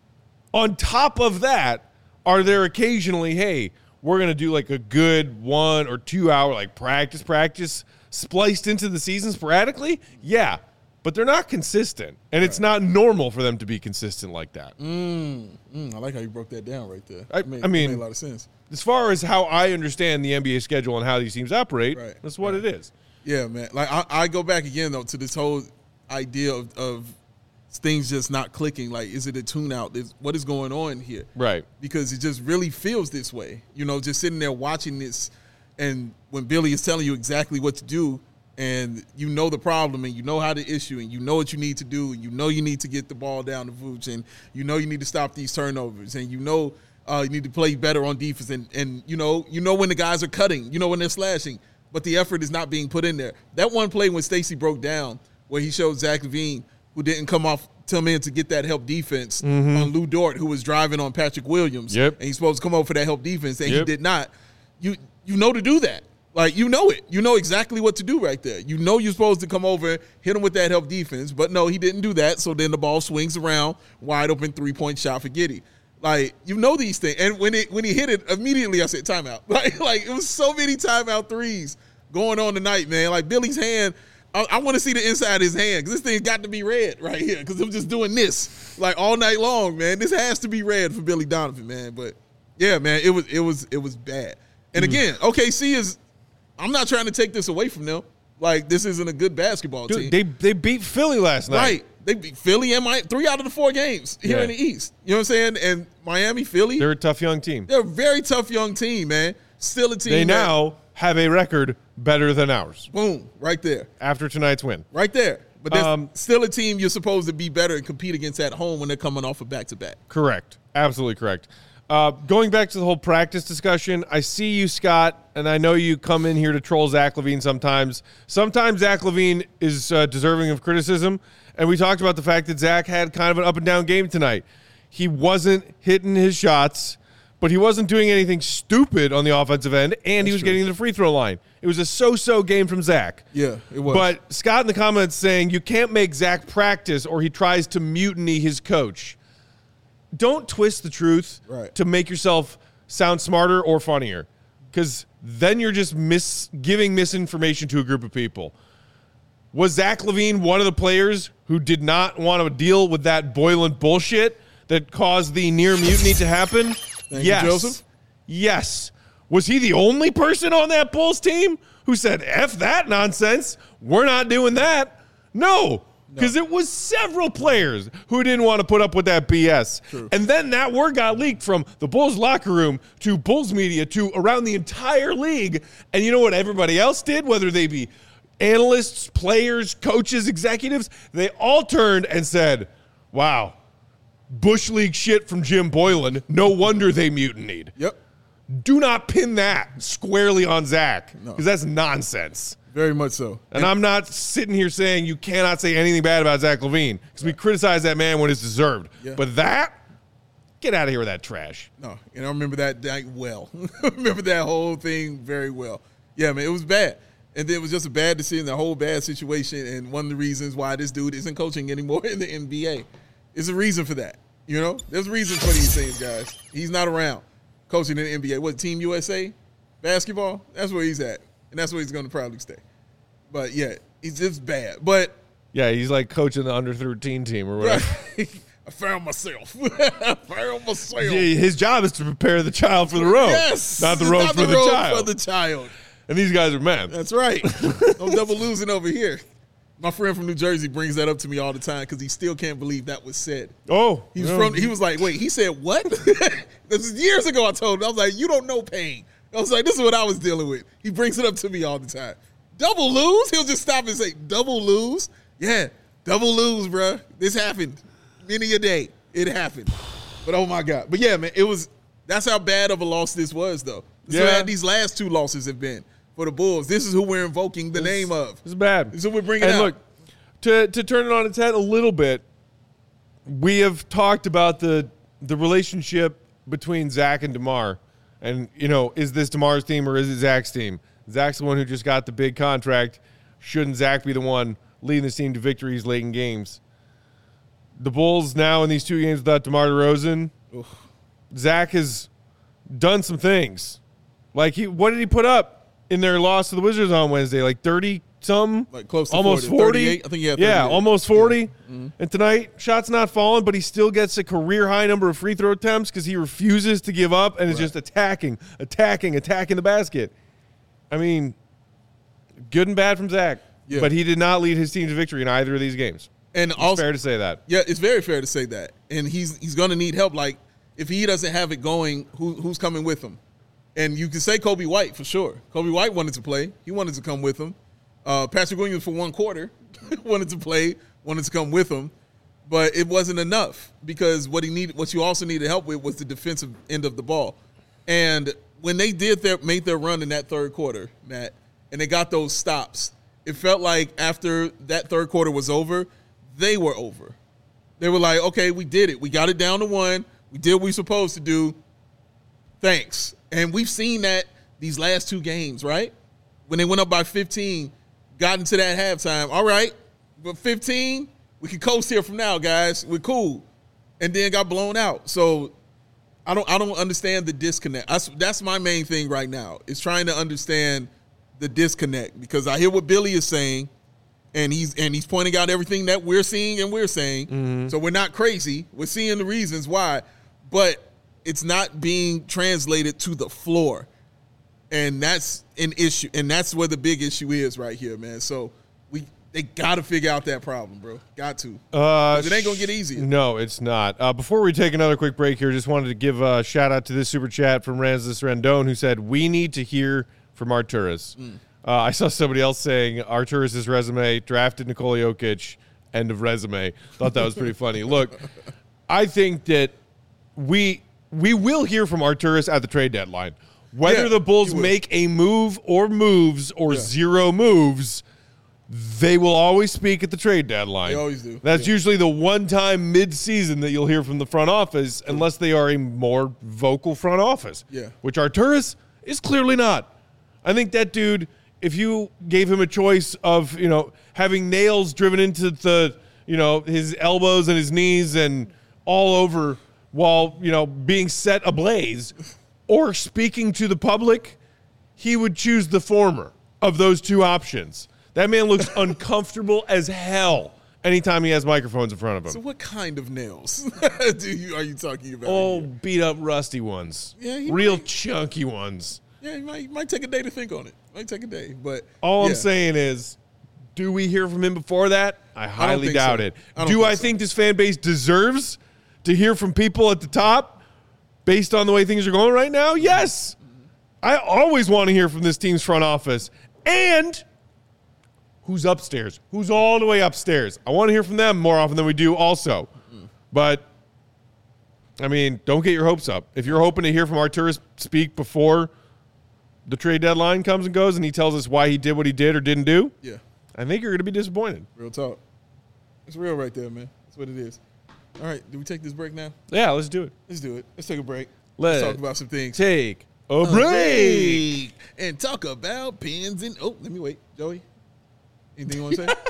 On top of that, are there occasionally, hey, we're going to do like a good one or two hour like practice, practice spliced into the season sporadically? Yeah. But they're not consistent, and it's not normal for them to be consistent like that. Mm, mm, I like how you broke that down right there. I, It made, I mean, it made a lot of sense. As far as how I understand the N B A schedule and how these teams operate, Right, that's what right. it is. Yeah, man. Like I, I go back again though to this whole idea of, of things just not clicking. Like, is it a tune out? Is, what is going on here? Right. Because it just really feels this way. You know, just sitting there watching this, and when Billy is telling you exactly what to do, and you know the problem, and you know how to issue, and you know what you need to do, and you know you need to get the ball down to Vooch, and you know you need to stop these turnovers, and you know uh, you need to play better on defense, and and you know you know when the guys are cutting, you know when they're slashing, but the effort is not being put in there. That one play when Stacey broke down, where he showed Zach LaVine, who didn't come off come in to get that help defense on Lou Dort, who was driving on Patrick Williams, Yep. and he's supposed to come over for that help defense, and Yep. he did not. You you know to do that. Like, you know it. You know exactly what to do right there. You know you're supposed to come over, hit him with that help defense. But, no, he didn't do that. So then the ball swings around, wide open three-point shot for Giddey. Like, you know these things. And when it when he hit it, immediately I said timeout. Like, like it was so many timeout threes going on tonight, man. Like, Billy's hand, I, I want to see the inside of his hand because this thing got to be red right here because I'm just doing this, like, all night long, man. This has to be red for Billy Donovan, man. But, yeah, man, it was it was, it was bad. And, again, O K C is – I'm not trying to take this away from them. Like, this isn't a good basketball Dude, team. they they beat Philly last night. Right. They beat Philly and Miami, three out of the four games here Yeah. in the East. You know what I'm saying? And Miami, Philly, They're they're, a tough young team. a very tough young team, man. Still a team. They that- now have a record better than ours boom, right there. after tonight's win. Right there. But there's Um, still a team you're supposed to be better and compete against at home when they're coming off a back-to-back. Correct. Absolutely correct. Uh, going back to the whole practice discussion, I see you, Scott, and I know you come in here to troll Zach LaVine sometimes. Sometimes Zach LaVine is uh, deserving of criticism, and we talked about the fact that Zach had kind of an up-and-down game tonight. He wasn't hitting his shots, but he wasn't doing anything stupid on the offensive end, and he was true. getting to the free throw line. It was a so-so game from Zach. Yeah, it was. But Scott in the comments saying you can't make Zach practice or he tries to mutiny his coach. Don't twist the truth Right. to make yourself sound smarter or funnier, because then you're just mis- giving misinformation to a group of people. Was Zach LaVine one of the players who did not want to deal with that Boylan bullshit that caused the near mutiny to happen? Thank you, yes. Joseph. Yes. Was he the only person on that Bulls team who said, F that nonsense? We're not doing that. No. Because it was several players who didn't want to put up with that B S. True. And then that word got leaked from the Bulls locker room to Bulls media to around the entire league. And you know what everybody else did, whether they be analysts, players, coaches, executives? They all turned and said, wow, Bush League shit from Jim Boylan. No wonder they mutinied. Yep. Do not pin that squarely on Zach, No. because that's nonsense. Very much so. And I'm not sitting here saying you cannot say anything bad about Zach LaVine, because we criticize that man when it's deserved. Yeah. But that, get out of here with that trash. No, and I remember that night well. I remember that whole thing very well. Yeah, man, it was bad. And then it was just a bad decision, the whole bad situation, and one of the reasons why this dude isn't coaching anymore in the N B A. There's a reason for that, you know? There's a reason for these things, guys. He's not around coaching in the N B A. What, Team U S A? Basketball? That's where he's at, and that's where he's going to probably stay. But, yeah, he's just bad. But Yeah, he's like coaching the under thirteen team or whatever. I found myself. I found myself. Yeah, his job is to prepare the child for the road, Yes. not the road not for the, road child. for the child. And these guys are men. That's right. No double losing over here. My friend from New Jersey brings that up to me all the time because he still can't believe that was said. Oh, He was yeah. from. He was like, "Wait," he said, "What?" This was years ago. I told him. I was like, "You don't know pain." I was like, "This is what I was dealing with." He brings it up to me all the time. double lose? He'll just stop and say, double lose? Yeah, double lose, bro. This happened many a day. It happened. But, oh, my God. But, yeah, man, it was – that's how bad of a loss this was, though. This Yeah. is how these last two losses have been for the Bulls. This is who we're invoking the It's- name of. It's bad. This is what we're bringing and out. look, to to turn it on its head a little bit, we have talked about the the relationship between Zach and DeMar. And, you know, is this DeMar's team or is it Zach's team? Zach's the one who just got the big contract. Shouldn't Zach be the one leading this team to victories late in games? The Bulls now in these two games without DeMar DeRozan, Zach has done some things. Like, he, what did he put up in their loss to the Wizards on Wednesday? Like thirty some? Like close to almost forty. forty. thirty-eight? I think he had Yeah, thirty-eight. almost forty. Yeah. Mm-hmm. And tonight, shots not falling, but he still gets a career high number of free throw attempts because he refuses to give up and is Right. just attacking, attacking, attacking the basket. I mean, good and bad from Zach. Yeah. But he did not lead his team to victory in either of these games. And It's also, fair to say that. yeah, it's very fair to say that. And he's he's going to need help. Like, if he doesn't have it going, who, who's coming with him? And you can say Kobe White for sure. Kobe White wanted to play. He wanted to come with him. Uh, Patrick Williams for one quarter wanted to play, wanted to come with him. But it wasn't enough because what he needed, what you also needed help with was the defensive end of the ball. And when they did their made their run in that third quarter, Matt, and they got those stops, it felt like after that third quarter was over, they were over. They were like, okay, we did it. We got it down to one. We did what we were supposed to do. Thanks. And we've seen that these last two games, right? When they went up by fifteen, got into that halftime. All right, but fifteen, we can coast here from now, guys. We're cool. And then got blown out. So I don't I don't understand the disconnect. That's, that's my main thing right now is trying to understand the disconnect because I hear what Billy is saying, and he's and he's pointing out everything that we're seeing and we're saying. Mm-hmm. So we're not crazy. We're seeing the reasons why, but it's not being translated to the floor. And that's an issue. And that's where the big issue is right here, man. So we they got to figure out that problem, bro. Got to. Uh, it ain't going to get easier. No, it's not. Uh, before we take another quick break here, just wanted to give a shout out to this super chat from Ramses Rendon who said, we need to hear from Arturas. Mm. Uh, I saw somebody else saying Arturas' resume, drafted Nikola Jokic, end of resume. Thought that was pretty funny. Look, I think that we we will hear from Arturas at the trade deadline. Whether Yeah, the Bulls you will. make a move or moves or Yeah. zero moves, they will always speak at the trade deadline. They always do. That's Yeah. usually the one time mid-season that you'll hear from the front office, unless they are a more vocal front office. Yeah. Which Arturas is clearly not. I think that dude, if you gave him a choice of, you know, having nails driven into the, you know, his elbows and his knees and all over while, you know, being set ablaze, or speaking to the public, he would choose the former of those two options. That man looks uncomfortable as hell anytime he has microphones in front of him. So what kind of nails do you are you talking about? Oh, here? beat up rusty ones. Yeah, he Real might. chunky ones. Yeah, you might, you might take a day to think on it. Might take a day, but All yeah. I'm saying is, do we hear from him before that? I highly think doubt so. it. I don't Do think I so. think this fan base deserves to hear from people at the top based on the way things are going right now? Yes. I always want to hear from this team's front office. And who's upstairs? Who's all the way upstairs? I want to hear from them more often than we do also. But, I mean, don't get your hopes up. If you're hoping to hear from Arturas speak before the trade deadline comes and goes and he tells us why he did what he did or didn't do, Yeah, I think you're going to be disappointed. real talk. It's real right there, man. That's what it is. All right, do we take this break now? Yeah, let's do it. Let's do it. Let's take a break. Let's talk about some things. Take a break. break and talk about pins and oh, let me wait, Joey. Anything you want to say?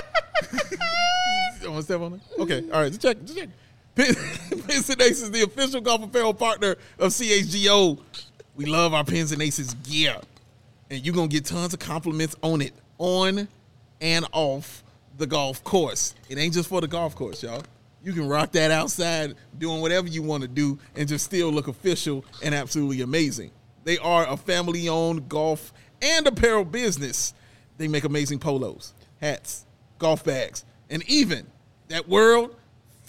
You want to step on it? Okay, all right. Just check. Just check. Pins, Pins and Aces, the official golf apparel partner of C H G O. We love our Pins and Aces gear, and you're gonna get tons of compliments on it, on and off the golf course. It ain't just for the golf course, y'all. You can rock that outside doing whatever you want to do and just still look official and absolutely amazing. They are a family-owned golf and apparel business. They make amazing polos, hats, golf bags, and even that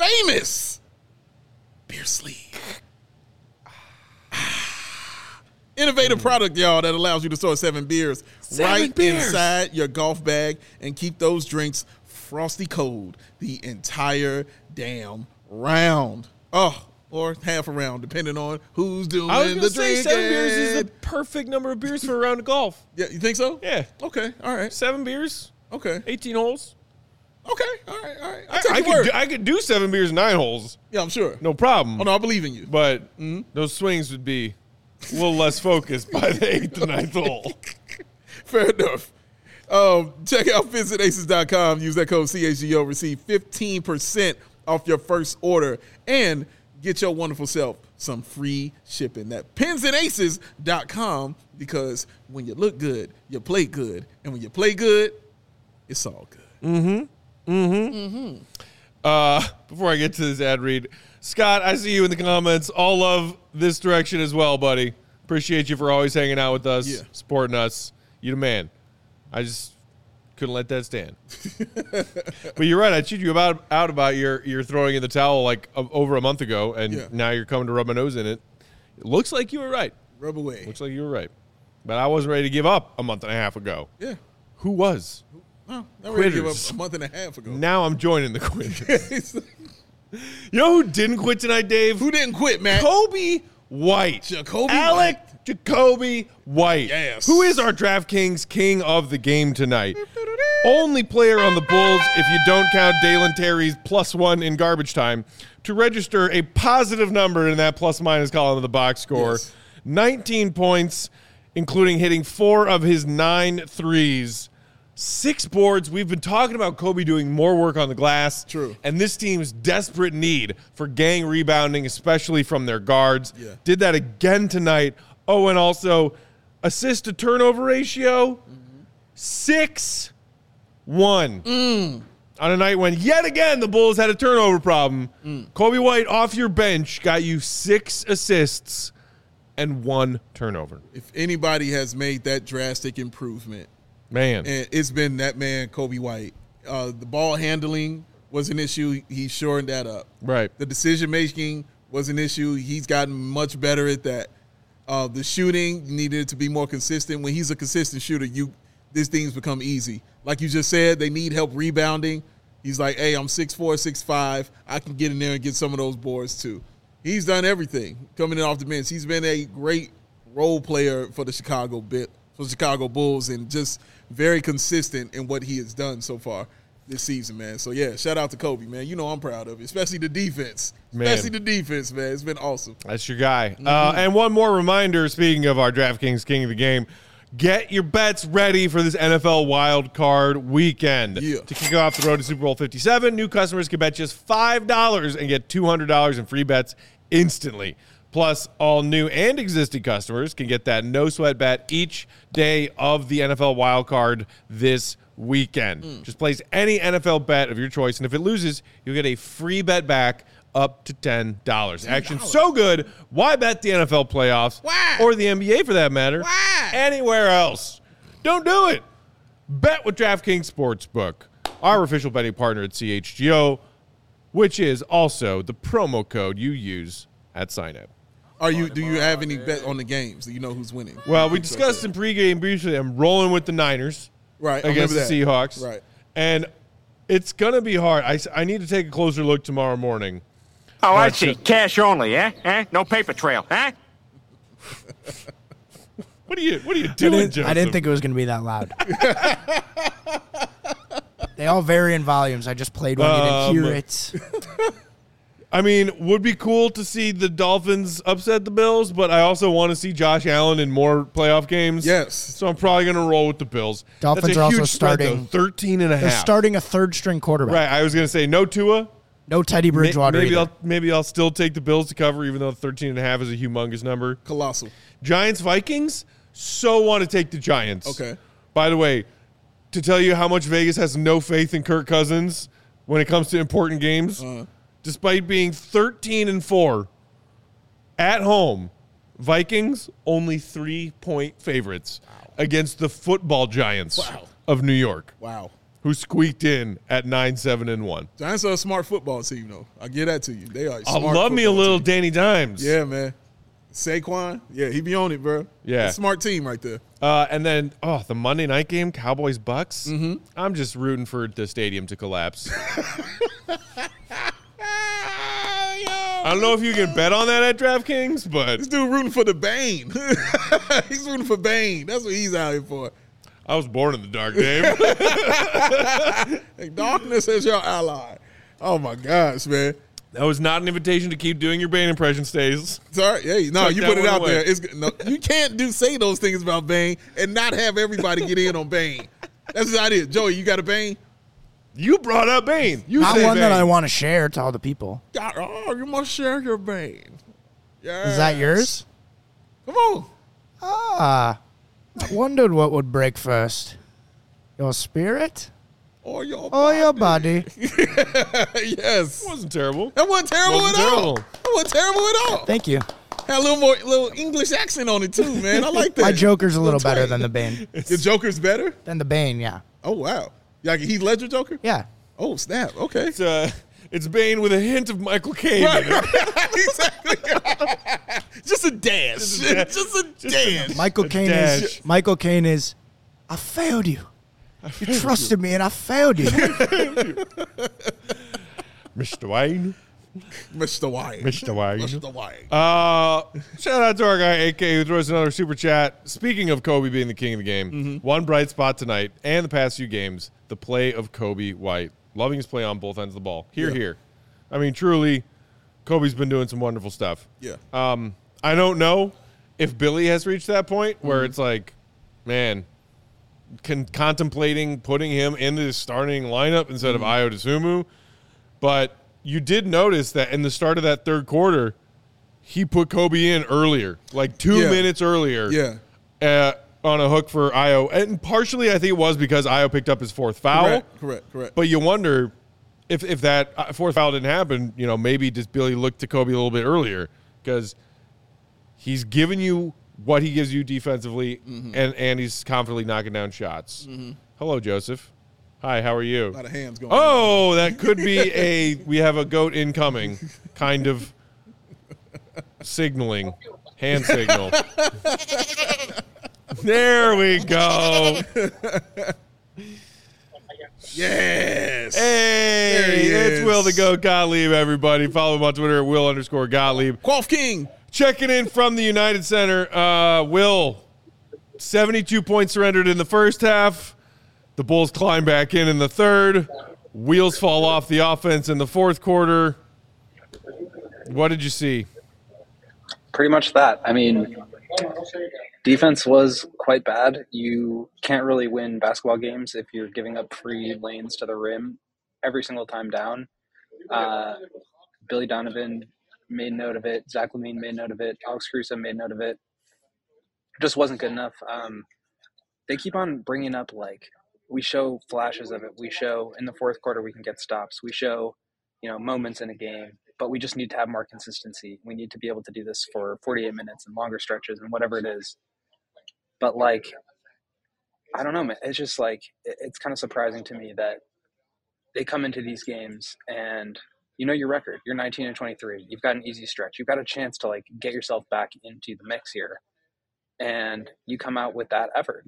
world-famous beer sleeve. Innovative product, y'all, that allows you to store seven beers Seven right beers. inside your golf bag and keep those drinks frosty cold the entire damn round. Oh, or half a round, depending on who's doing I was the going to say drinking. seven beers is the perfect number of beers for a round of golf. Yeah, you think so? Yeah. Okay, all right. Seven beers, Okay, eighteen holes. okay, all right, all right. I'll I, take I your could word. do, I could do seven beers, nine holes. Yeah, I'm sure. No problem. Oh, no, I believe in you. But Mm-hmm. those swings would be a little less focused by the eighth and ninth hole. Fair enough. Um, check out visit aces dot com. Use that code C H G O. Receive fifteen percent off your first order and get your wonderful self some free shipping. That pins and aces dot com, because when you look good, you play good. And when you play good, it's all good. Uh, before I get to this ad read, Scott, I see you in the comments. All love this direction as well, buddy. Appreciate you for always hanging out with us, Yeah. supporting us. You the man. I just couldn't let that stand. But you're right. I chewed you about out about your your throwing in the towel like uh, over a month ago, and Yeah. now you're coming to rub my nose in it. It looks like you were right. Rub away. Looks like you were right. But I wasn't ready to give up a month and a half ago. Yeah. Who was? Oh, not ready to give up Quitters. a month and a half ago. Now I'm joining the quitters. You know who didn't quit tonight, Dave? Who didn't quit, man? Kobe White. Jacoby Alec Jacoby White. Yes. Who is our DraftKings king of the game tonight? Only player on the Bulls, if you don't count Dalen Terry's plus one in garbage time, to register a positive number in that plus minus column of the box score. Yes. nineteen points, including hitting four of his nine threes. Six boards. We've been talking about Kobe doing more work on the glass. True. And this team's desperate need for gang rebounding, especially from their guards. Yeah. Did that again tonight. Oh, and also assist to turnover ratio, six one. On a night when, yet again, the Bulls had a turnover problem. Kobe White off your bench got you six assists and one turnover. If anybody has made that drastic improvement, Man. and it's been that man, Kobe White. Uh, the ball handling was an issue. He shored that up. Right. The decision making was an issue. He's gotten much better at that. Uh, the shooting needed to be more consistent. When he's a consistent shooter, you these things become easy. Like you just said, they need help rebounding. He's like, hey, I'm six four, six five. I can get in there and get some of those boards too. He's done everything coming in off the bench. He's been a great role player for the Chicago bit for the Chicago Bulls, and just very consistent in what he has done so far this season, man. So, yeah, shout out to Kobe, man. You know I'm proud of it, especially the defense. Man. Especially the defense, man. It's been awesome. That's your guy. Uh, and one more reminder, speaking of our DraftKings King of the Game, get your bets ready for this N F L Wild Card weekend. Yeah. To kick off the road to Super Bowl fifty-seven, new customers can bet just five dollars and get two hundred dollars in free bets instantly. Plus, all new and existing customers can get that no-sweat bet each day of the N F L Wild Card this weekend. Mm. Just place any N F L bet of your choice, and if it loses, you'll get a free bet back up to ten dollars. Action so good, why bet the N F L playoffs? Why? Or the N B A for that matter? Why? Anywhere else. Don't do it. Bet with DraftKings Sportsbook, our official betting partner at C H G O, which is also the promo code you use at sign-up. Are you? Do you have any bet on the games? Do you know who's winning? Well, we discussed in pregame briefly. I'm rolling with the Niners right I against the remember that. Seahawks. Right. And it's going to be hard. I, s- I need to take a closer look tomorrow morning. Oh, I Right, see. so- Cash only, eh? Eh? No paper trail, eh? What are you What are you I doing, didn't, Joseph? I didn't think it was going to be that loud. They all vary in volumes. I just played one. You didn't hear Um, it. I mean, would be cool to see the Dolphins upset the Bills, but I also want to see Josh Allen in more playoff games. Yes. So I'm probably going to roll with the Bills. Dolphins That's a are also huge spread, though, starting- thirteen and a They're half. starting a third-string quarterback. Right. I was going to say no Tua. No Teddy May- Bridgewater Maybe either. I'll maybe I'll still take the Bills to cover, even though thirteen and a half is a humongous number. Colossal. Giants Vikings. So want to take the Giants. Okay. By the way, to tell you how much Vegas has no faith in Kirk Cousins when it comes to important games, Uh-huh. despite being thirteen and four at home, Vikings only three point favorites against the football giants Wow. of New York, Wow. who squeaked in at nine seven and one. Giants are a smart football team, though. I give that to you. They are. A I smart love me a football little team. Danny Dimes. Yeah, man. Saquon, yeah, he be on it, bro. Yeah. A smart team right there. Uh, and then, oh, the Monday night game, Cowboys Bucks. Mm-hmm. I'm just rooting for the stadium to collapse. I don't know if you can bet on that at DraftKings, but This dude rooting for the Bane. He's rooting for Bane. That's what he's out here for. I was born in the dark, Dave. Hey, darkness is your ally. Oh my gosh, man. That was not an invitation to keep doing your Bane impression, Stays. Sorry, hey, no, Tuck you that put it one out away. there. It's no, you can't do say those things about Bane and not have everybody get in on Bane. That's the idea. Joey, you got a Bane? You brought up Bane. You Not said one that Bane. I want to share to all the people. God, oh, you must share your Bane. Yes. Is that yours? Come on. Ah, I wondered what would break first. Your spirit Or your or body. your body? Yes. It wasn't terrible. That wasn't terrible Wasn't at all. terrible. That wasn't terrible at all. Thank you. Had a little more little English accent on it too, man. I like that. My Joker's a little Little better twang. than the Bane. Your Joker's better? Than the Bane, yeah. Oh wow. Yeah, like Heath Ledger Joker? Yeah. Oh snap. Okay. It's, uh, it's Bane with a hint of Michael Caine. in it. Exactly. Just a dash. Just a da- Just a dash. Michael A Caine dash. is Michael Caine is I failed you. You trusted me and I failed you. Mister Wayne. Mister Wayne. Mister Wayne. Mister Wayne. Uh, shout out to our guy A K who throws another super chat. Speaking of Kobe being the king of the game, Mm-hmm. one bright spot tonight and the past few games, the play of Kobe White. Loving his play on both ends of the ball. Here, Yeah. here. I mean, truly, Kobe's been doing some wonderful stuff. Yeah. Um, I don't know if Billy has reached that point where Mm-hmm. it's like, man, con- contemplating putting him in the starting lineup instead Mm-hmm. of Ayo Dosunmu, but you did notice that in the start of that third quarter, he put Kobe in earlier, like two Yeah. minutes earlier. Yeah. Uh, on a hook for Ayo. And partially, I think it was because Ayo picked up his fourth foul. Correct. Correct. Correct. But you wonder if if that uh, fourth foul didn't happen, you know, maybe does Billy look to Kobe a little bit earlier because he's given you what he gives you defensively, Mm-hmm. and, and he's confidently knocking down shots. Hello, Joseph. Hi, how are you? a lot of hands going on. Oh, that could be a we have a goat incoming kind of signaling, hand signal. There we go. Yes. Hey, There he it's is. Will the Goat Gottlieb, everybody. Follow him on Twitter at Will underscore Gottlieb. Quaff King. Checking in from the United Center. Uh, Will, seventy-two points surrendered in the first half. The Bulls climb back in in the third. Wheels fall off the offense in the fourth quarter. What did you see? Pretty much that. I mean, defense was quite bad. You can't really win basketball games if you're giving up free lanes to the rim every single time down. Uh, Billy Donovan made note of it. Zach LaVine made note of it. Alex Caruso made note of it. Just wasn't good enough. Um, they keep on bringing up, like, we show flashes of it. We show in the fourth quarter we can get stops. We show, you know, moments in a game. But we just need to have more consistency. We need to be able to do this for forty-eight minutes and longer stretches and whatever it is. But, like, I don't know, man. It's just, like, it's kind of surprising to me that they come into these games and you know your record. You're nineteen and twenty-three. You've got an easy stretch. You've got a chance to, like, get yourself back into the mix here. And you come out with that effort.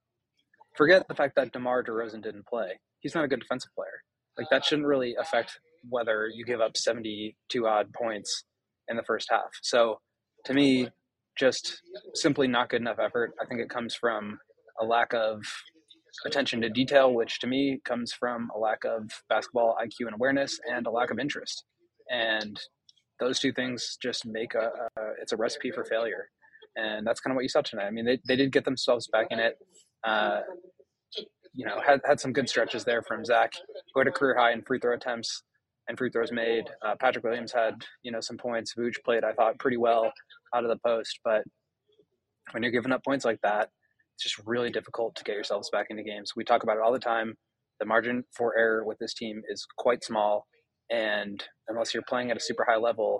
Forget the fact that DeMar DeRozan didn't play. He's not a good defensive player. Like, that shouldn't really affect whether you give up seventy-two odd points in the first half. So to me, just simply not good enough effort. I think it comes from a lack of attention to detail, which to me comes from a lack of basketball I Q and awareness and a lack of interest. And those two things just make a, a it's a recipe for failure. And that's kind of what you saw tonight. I mean, they, they did get themselves back in it. Uh, you know, had, had some good stretches there from Zach, who had a career high in free throw attempts and free throws made. Uh, Patrick Williams had, you know, some points. Vooch played, I thought, pretty well out of the post. But when you're giving up points like that, it's just really difficult to get yourselves back into games. We talk about it all the time. The margin for error with this team is quite small. And unless you're playing at a super high level,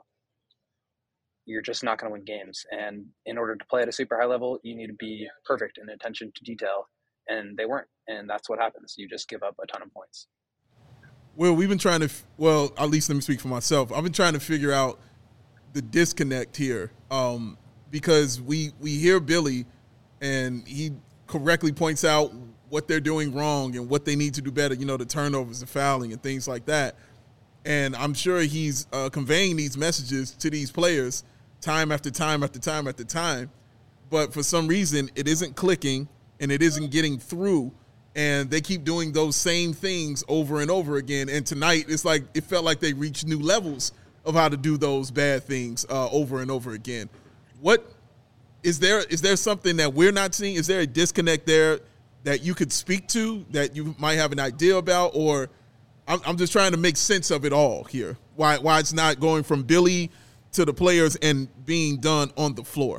you're just not going to win games. And in order to play at a super high level, you need to be perfect in attention to detail. And they weren't. And that's what happens. You just give up a ton of points. Well, we've been trying to, well, at least let me speak for myself. I've been trying to figure out the disconnect here. Um, because we we hear Billy, and he correctly points out what they're doing wrong and what they need to do better. You know, the turnovers, the fouling, and things like that. And I'm sure he's uh, conveying these messages to these players time after time after time after time. But for some reason, it isn't clicking and it isn't getting through. And they keep doing those same things over and over again. And tonight, it's like it felt like they reached new levels of how to do those bad things uh, over and over again. What is there? Is there something that we're not seeing? Is there a disconnect there that you could speak to, that you might have an idea about? Or I'm, I'm just trying to make sense of it all here. Why why it's not going from Billy to the players and being done on the floor?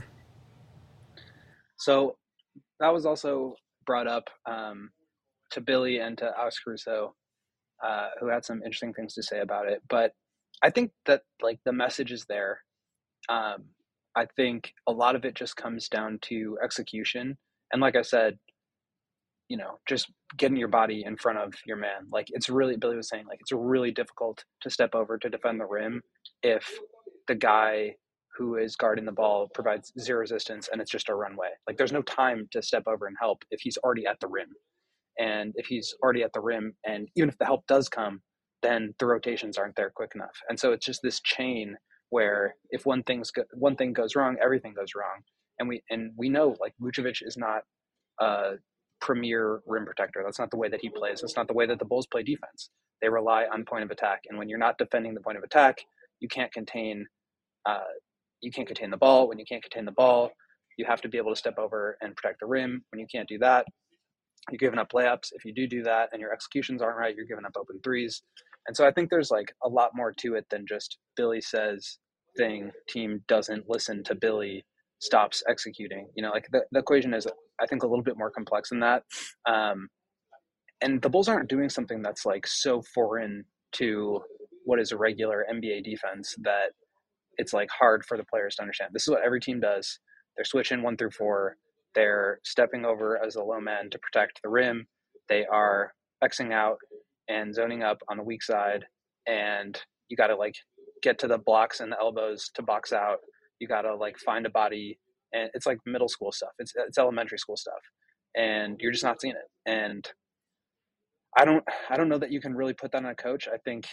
So that was also brought up um, to Billy and to Alex Caruso, uh, who had some interesting things to say about it. But I think that like the message is there. Um, I think a lot of it just comes down to execution. And like I said, you know, just getting your body in front of your man. Like it's really, Billy was saying, like, it's really difficult to step over to defend the rim if the guy who is guarding the ball provides zero resistance and it's just a runway. Like there's no time to step over and help if he's already at the rim. And if he's already at the rim, and even if the help does come, then the rotations aren't there quick enough. And so it's just this chain where if one thing's go- one thing goes wrong, everything goes wrong. And we and we know like Vucevic is not a premier rim protector. That's not the way that he plays. That's not the way that the Bulls play defense. They rely on point of attack. And when you're not defending the point of attack, you can't contain uh, you can't contain the ball. When you can't contain the ball, you have to be able to step over and protect the rim. When you can't do that, you're giving up layups. If you do do that and your executions aren't right, you're giving up open threes. And so I think there's like a lot more to it than just Billy says thing, team doesn't listen to Billy, stops executing. You know, like the, the equation is, I think, a little bit more complex than that. Um, and the Bulls aren't doing something that's like so foreign to what is a regular N B A defense that it's like hard for the players to understand. This is what every team does. They're switching one through four. They're stepping over as a low man to protect the rim. They are Xing out and zoning up on the weak side. And you got to like get to the blocks and the elbows to box out. You got to like find a body. And it's like middle school stuff. It's it's elementary school stuff. And you're just not seeing it. And I don't I don't know that you can really put that on a coach. I think,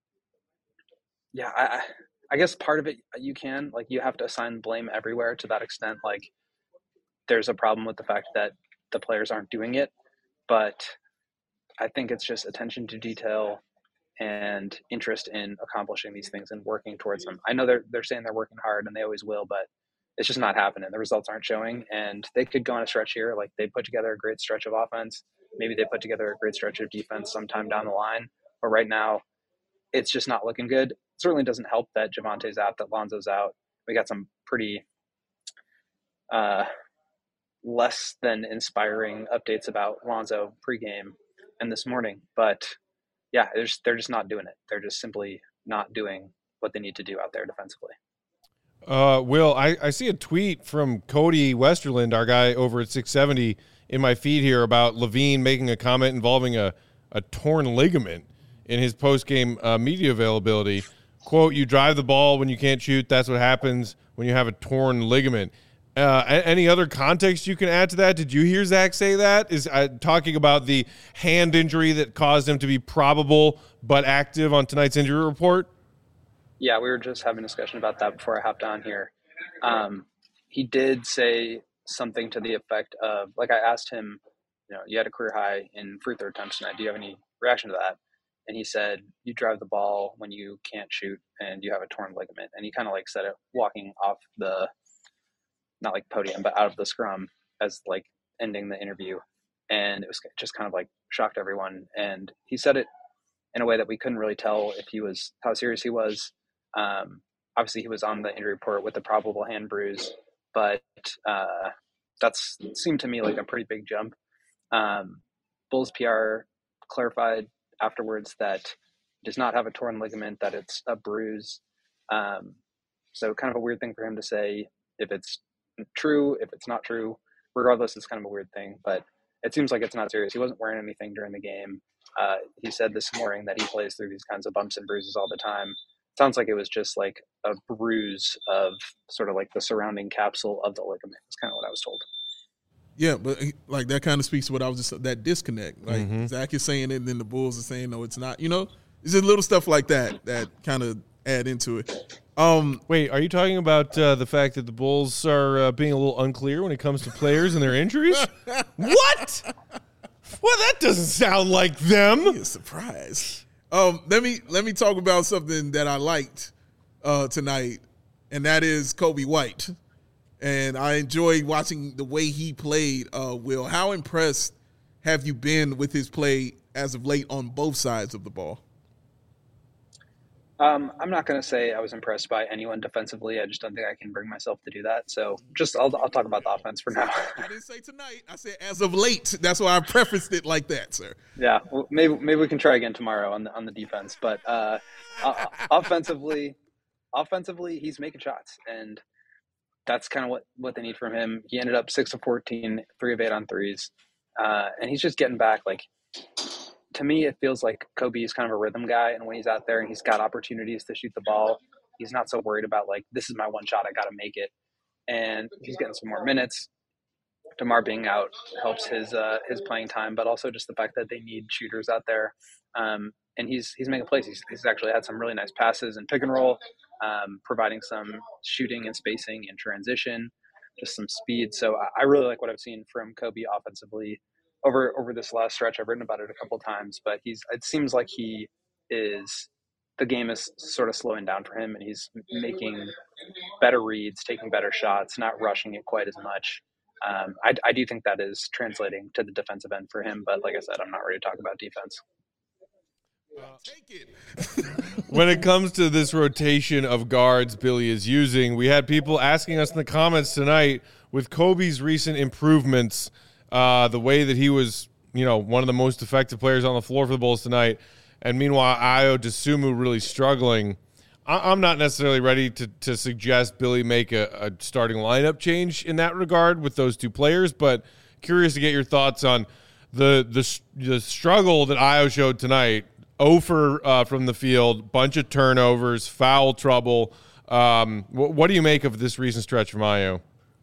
yeah, I I guess part of it you can. Like you have to assign blame everywhere to that extent. Like there's a problem with the fact that the players aren't doing it. But I think it's just attention to detail and interest in accomplishing these things and working towards them. I know they're they're saying they're working hard and they always will, but it's just not happening. The results aren't showing, and they could go on a stretch here. Like they put together a great stretch of offense. Maybe they put together a great stretch of defense sometime down the line. But right now, it's just not looking good. It certainly doesn't help that Javante's out, that Lonzo's out. We got some pretty uh, less than inspiring updates about Lonzo pregame and this morning. But yeah, they're just, they're just not doing it. They're just simply not doing what they need to do out there defensively. Uh, Will, I, I see a tweet from Cody Westerland, our guy over at six seventy, in my feed here about Levine making a comment involving a, a torn ligament in his post-game uh, media availability. Quote, you drive the ball when you can't shoot. That's what happens when you have a torn ligament. Uh, any other context you can add to that? Did you hear Zach say that? Is uh, talking about the hand injury that caused him to be probable but active on tonight's injury report? Yeah, we were just having a discussion about that before I hopped on here. Um, he did say something to the effect of, like I asked him, you know, you had a career high in free throw attempts tonight. Do you have any reaction to that? And he said, you drive the ball when you can't shoot and you have a torn ligament. And he kind of like said it walking off the, not like podium, but out of the scrum as like ending the interview. And it was just kind of like shocked everyone. And he said it in a way that we couldn't really tell if he was, how serious he was. Um, obviously he was on the injury report with the probable hand bruise, but uh, that's seemed to me like a pretty big jump. Um, Bulls P R clarified afterwards that he does not have a torn ligament, that it's a bruise. Um, so kind of a weird thing for him to say. If it's true, if it's not true, regardless, it's kind of a weird thing, but it seems like it's not serious. He wasn't wearing anything during the game. Uh, he said this morning that he plays through these kinds of bumps and bruises all the time. sounds like it was just like a bruise of sort of like the surrounding capsule of the ligament. That's kind of what I was told. Yeah, but like that kind of speaks to what I was just that disconnect. Like Mm-hmm. Zach is saying it, and then the Bulls are saying no, it's not. You know, it's just little stuff like that that kind of add into it. Um, Wait, are you talking about uh, the fact that the Bulls are uh, being a little unclear when it comes to players and their injuries? What? Well, that doesn't sound like them. Be a surprise. Um, let me let me talk about something that I liked uh, tonight, and that is Kobe White. And I enjoyed watching the way he played. Uh, Will, how impressed have you been with his play as of late on both sides of the ball? Um, I'm not going to say I was impressed by anyone defensively. I just don't think I can bring myself to do that. So just I'll, I'll talk about the offense for now. I didn't say tonight. I said as of late. That's why I prefaced it like that, sir. Yeah, well, maybe maybe we can try again tomorrow on the on the defense. But uh, uh, offensively, offensively, he's making shots, and that's kind of what, what they need from him. He ended up six of fourteen, three of eight on threes, uh, and he's just getting back. Like, to me, it feels like Kobe is kind of a rhythm guy, and when he's out there and he's got opportunities to shoot the ball, he's not so worried about like, this is my one shot, I got to make it. And he's getting some more minutes. DeMar being out helps his uh, his playing time, but also just the fact that they need shooters out there. Um, and he's he's making plays. He's, he's actually had some really nice passes and pick and roll, um, providing some shooting and spacing and transition, just some speed. So I, I really like what I've seen from Kobe offensively over over this last stretch. I've written about it a couple times, but he's it seems like he is the game is sort of slowing down for him, and he's making better reads, taking better shots, not rushing it quite as much. Um, I, I do think that is translating to the defensive end for him, but like I said, I'm not ready to talk about defense. Uh, take it. When it comes to this rotation of guards Billy is using, we had people asking us in the comments tonight with Kobe's recent improvements, uh, the way that he was, you know, one of the most effective players on the floor for the Bulls tonight, and meanwhile Ayo Dosunmu really struggling. I- I'm not necessarily ready to to suggest Billy make a, a starting lineup change in that regard with those two players, but curious to get your thoughts on the the, the struggle that Ayo showed tonight. oh for uh, from the field, bunch of turnovers, foul trouble. Um, wh- what do you make of this recent stretch from Ayo?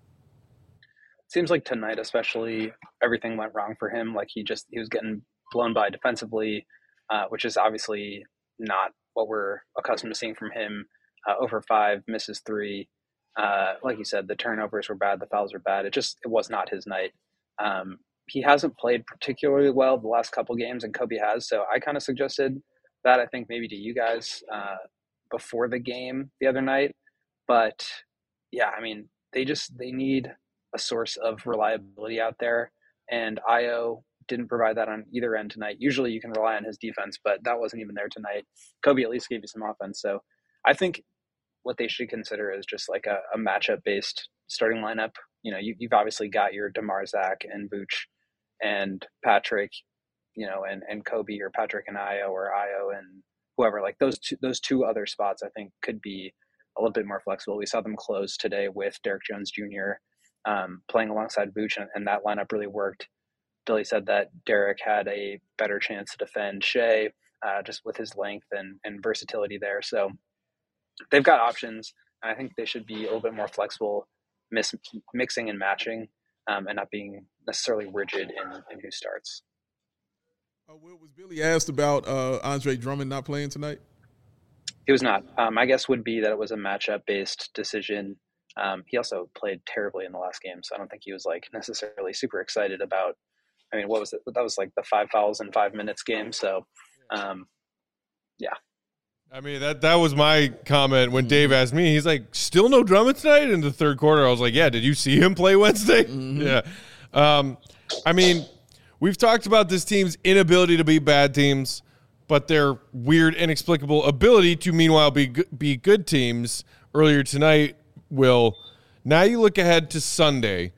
Seems like tonight especially, everything went wrong for him. Like he just he was getting blown by defensively, uh, which is obviously not what we're accustomed to seeing from him. Uh, over five, misses three. Uh, like you said, the turnovers were bad, the fouls were bad. It just it was not his night. Um, he hasn't played particularly well the last couple games, and Kobe has. So I kind of suggested that, I think, maybe to you guys uh, before the game the other night. But yeah, I mean, they just they need a source of reliability out there, and Ayo didn't provide that on either end tonight. Usually you can rely on his defense, but that wasn't even there tonight. Kobe at least gave you some offense. So I think what they should consider is just like a, a matchup-based starting lineup. You know, you, you've obviously got your DeMar, Zach, and Vooch, and Patrick, you know, and, and Kobe, or Patrick and Ayo, or Ayo and whoever. Like those two, those two other spots I think could be a little bit more flexible. We saw them close today with Derrick Jones Junior um, playing alongside Vooch, and, and that lineup really worked. Billy said that Derrick had a better chance to defend Shea, uh, just with his length and, and versatility there. So they've got options, and I think they should be a little bit more flexible, mis- mixing and matching, um, and not being necessarily rigid in, in who starts. Uh, Will, was Billy asked about uh, Andre Drummond not playing tonight? He was not. Um, my guess would be that it was a matchup-based decision. Um, he also played terribly in the last game, so I don't think he was like necessarily super excited about. I mean, what was it? That was like the five fouls in five minutes game. So, um, yeah. I mean, that that was my comment when Dave asked me. He's like, still no Drummond tonight in the third quarter. I was like, yeah, did you see him play Wednesday? Mm-hmm. Yeah. Um, I mean, we've talked about this team's inability to be bad teams, but their weird, inexplicable ability to, meanwhile, be good, be good teams. Earlier tonight, Will, now you look ahead to Sunday.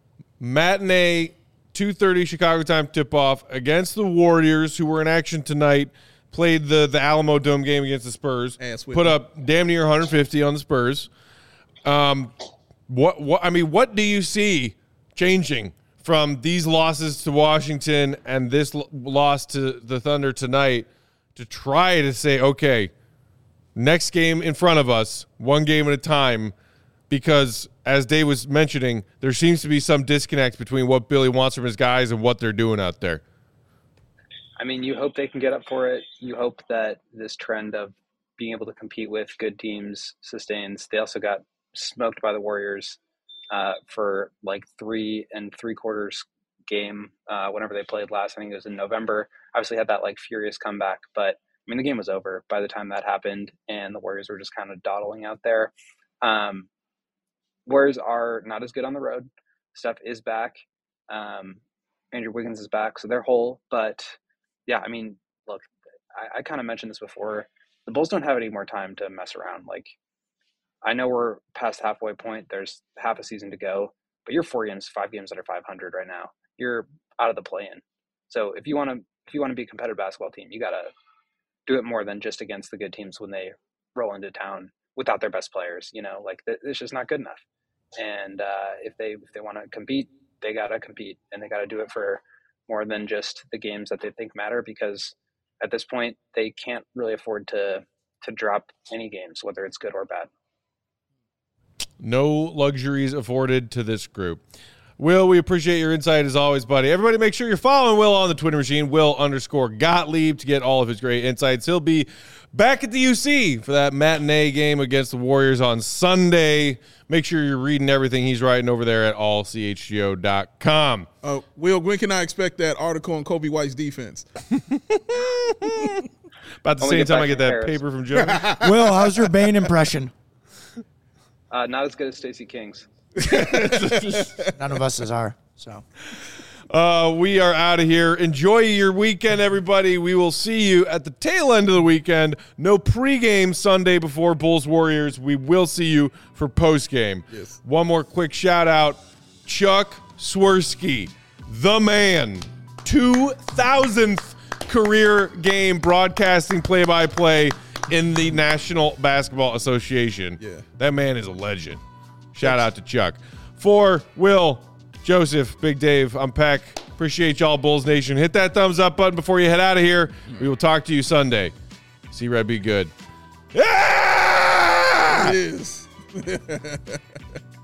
Matinee, two thirty Chicago time tip-off against the Warriors, who were in action tonight. Played the, the Alamo Dome game against the Spurs. Put up damn near one hundred fifty on the Spurs. Um, what what I mean, what do you see changing from these losses to Washington and this l- loss to the Thunder tonight to try to say, okay, Next game in front of us, one game at a time, because as Dave was mentioning, there seems to be some disconnect between what Billy wants from his guys and what they're doing out there. I mean, you hope they can get up for it. You hope that this trend of being able to compete with good teams sustains. They also got smoked by the Warriors uh, for like three and three quarters game uh, whenever they played last. I think it was in November. Obviously had that like furious comeback, but I mean, the game was over by the time that happened, and the Warriors were just kind of dawdling out there. Um, Warriors are not as good on the road. Steph is back. Um, Andrew Wiggins is back, so they're whole. But, yeah, I mean, look, I, I kind of mentioned this before. The Bulls don't have any more time to mess around. Like, I know we're past halfway point. There's half a season to go. But you're four games, five games under five hundred right now. You're out of the play-in. So if you want to if you want to be a competitive basketball team, you got to do it more than just against the good teams when they roll into town without their best players. You know, like it's just not good enough. And uh, if they if they want to compete, they got to compete, and they got to do it for more than just the games that they think matter, because at this point they can't really afford to to drop any games, whether it's good or bad. No luxuries afforded to this group. Will, we appreciate your insight as always, buddy. Everybody make sure you're following Will on the Twitter machine, Will underscore Gottlieb, to get all of his great insights. He'll be back at the U C for that matinee game against the Warriors on Sunday. Make sure you're reading everything he's writing over there at all c h g o dot com. Uh, Will, when can I expect that article on Kobe White's defense? About the Only same get time back I get from that Paris. paper from Joe. Will, how's your Bane impression? Uh, not as good as Stacey King's. None of us is are. So Uh, we are out of here. Enjoy your weekend, everybody. We will see you at the tail end of the weekend. No pregame Sunday before Bulls Warriors. We will see you for postgame. Yes. One more quick shout out. Chuck Swirsky, the man, two thousandth career game broadcasting play-by-play in the National Basketball Association. Yeah. That man is a legend. Shout out to Chuck. For Will, Joseph, Big Dave, I'm Peck. Appreciate y'all, Bulls Nation. Hit that thumbs up button before you head out of here. We will talk to you Sunday. See Red be good. Yeah! It is.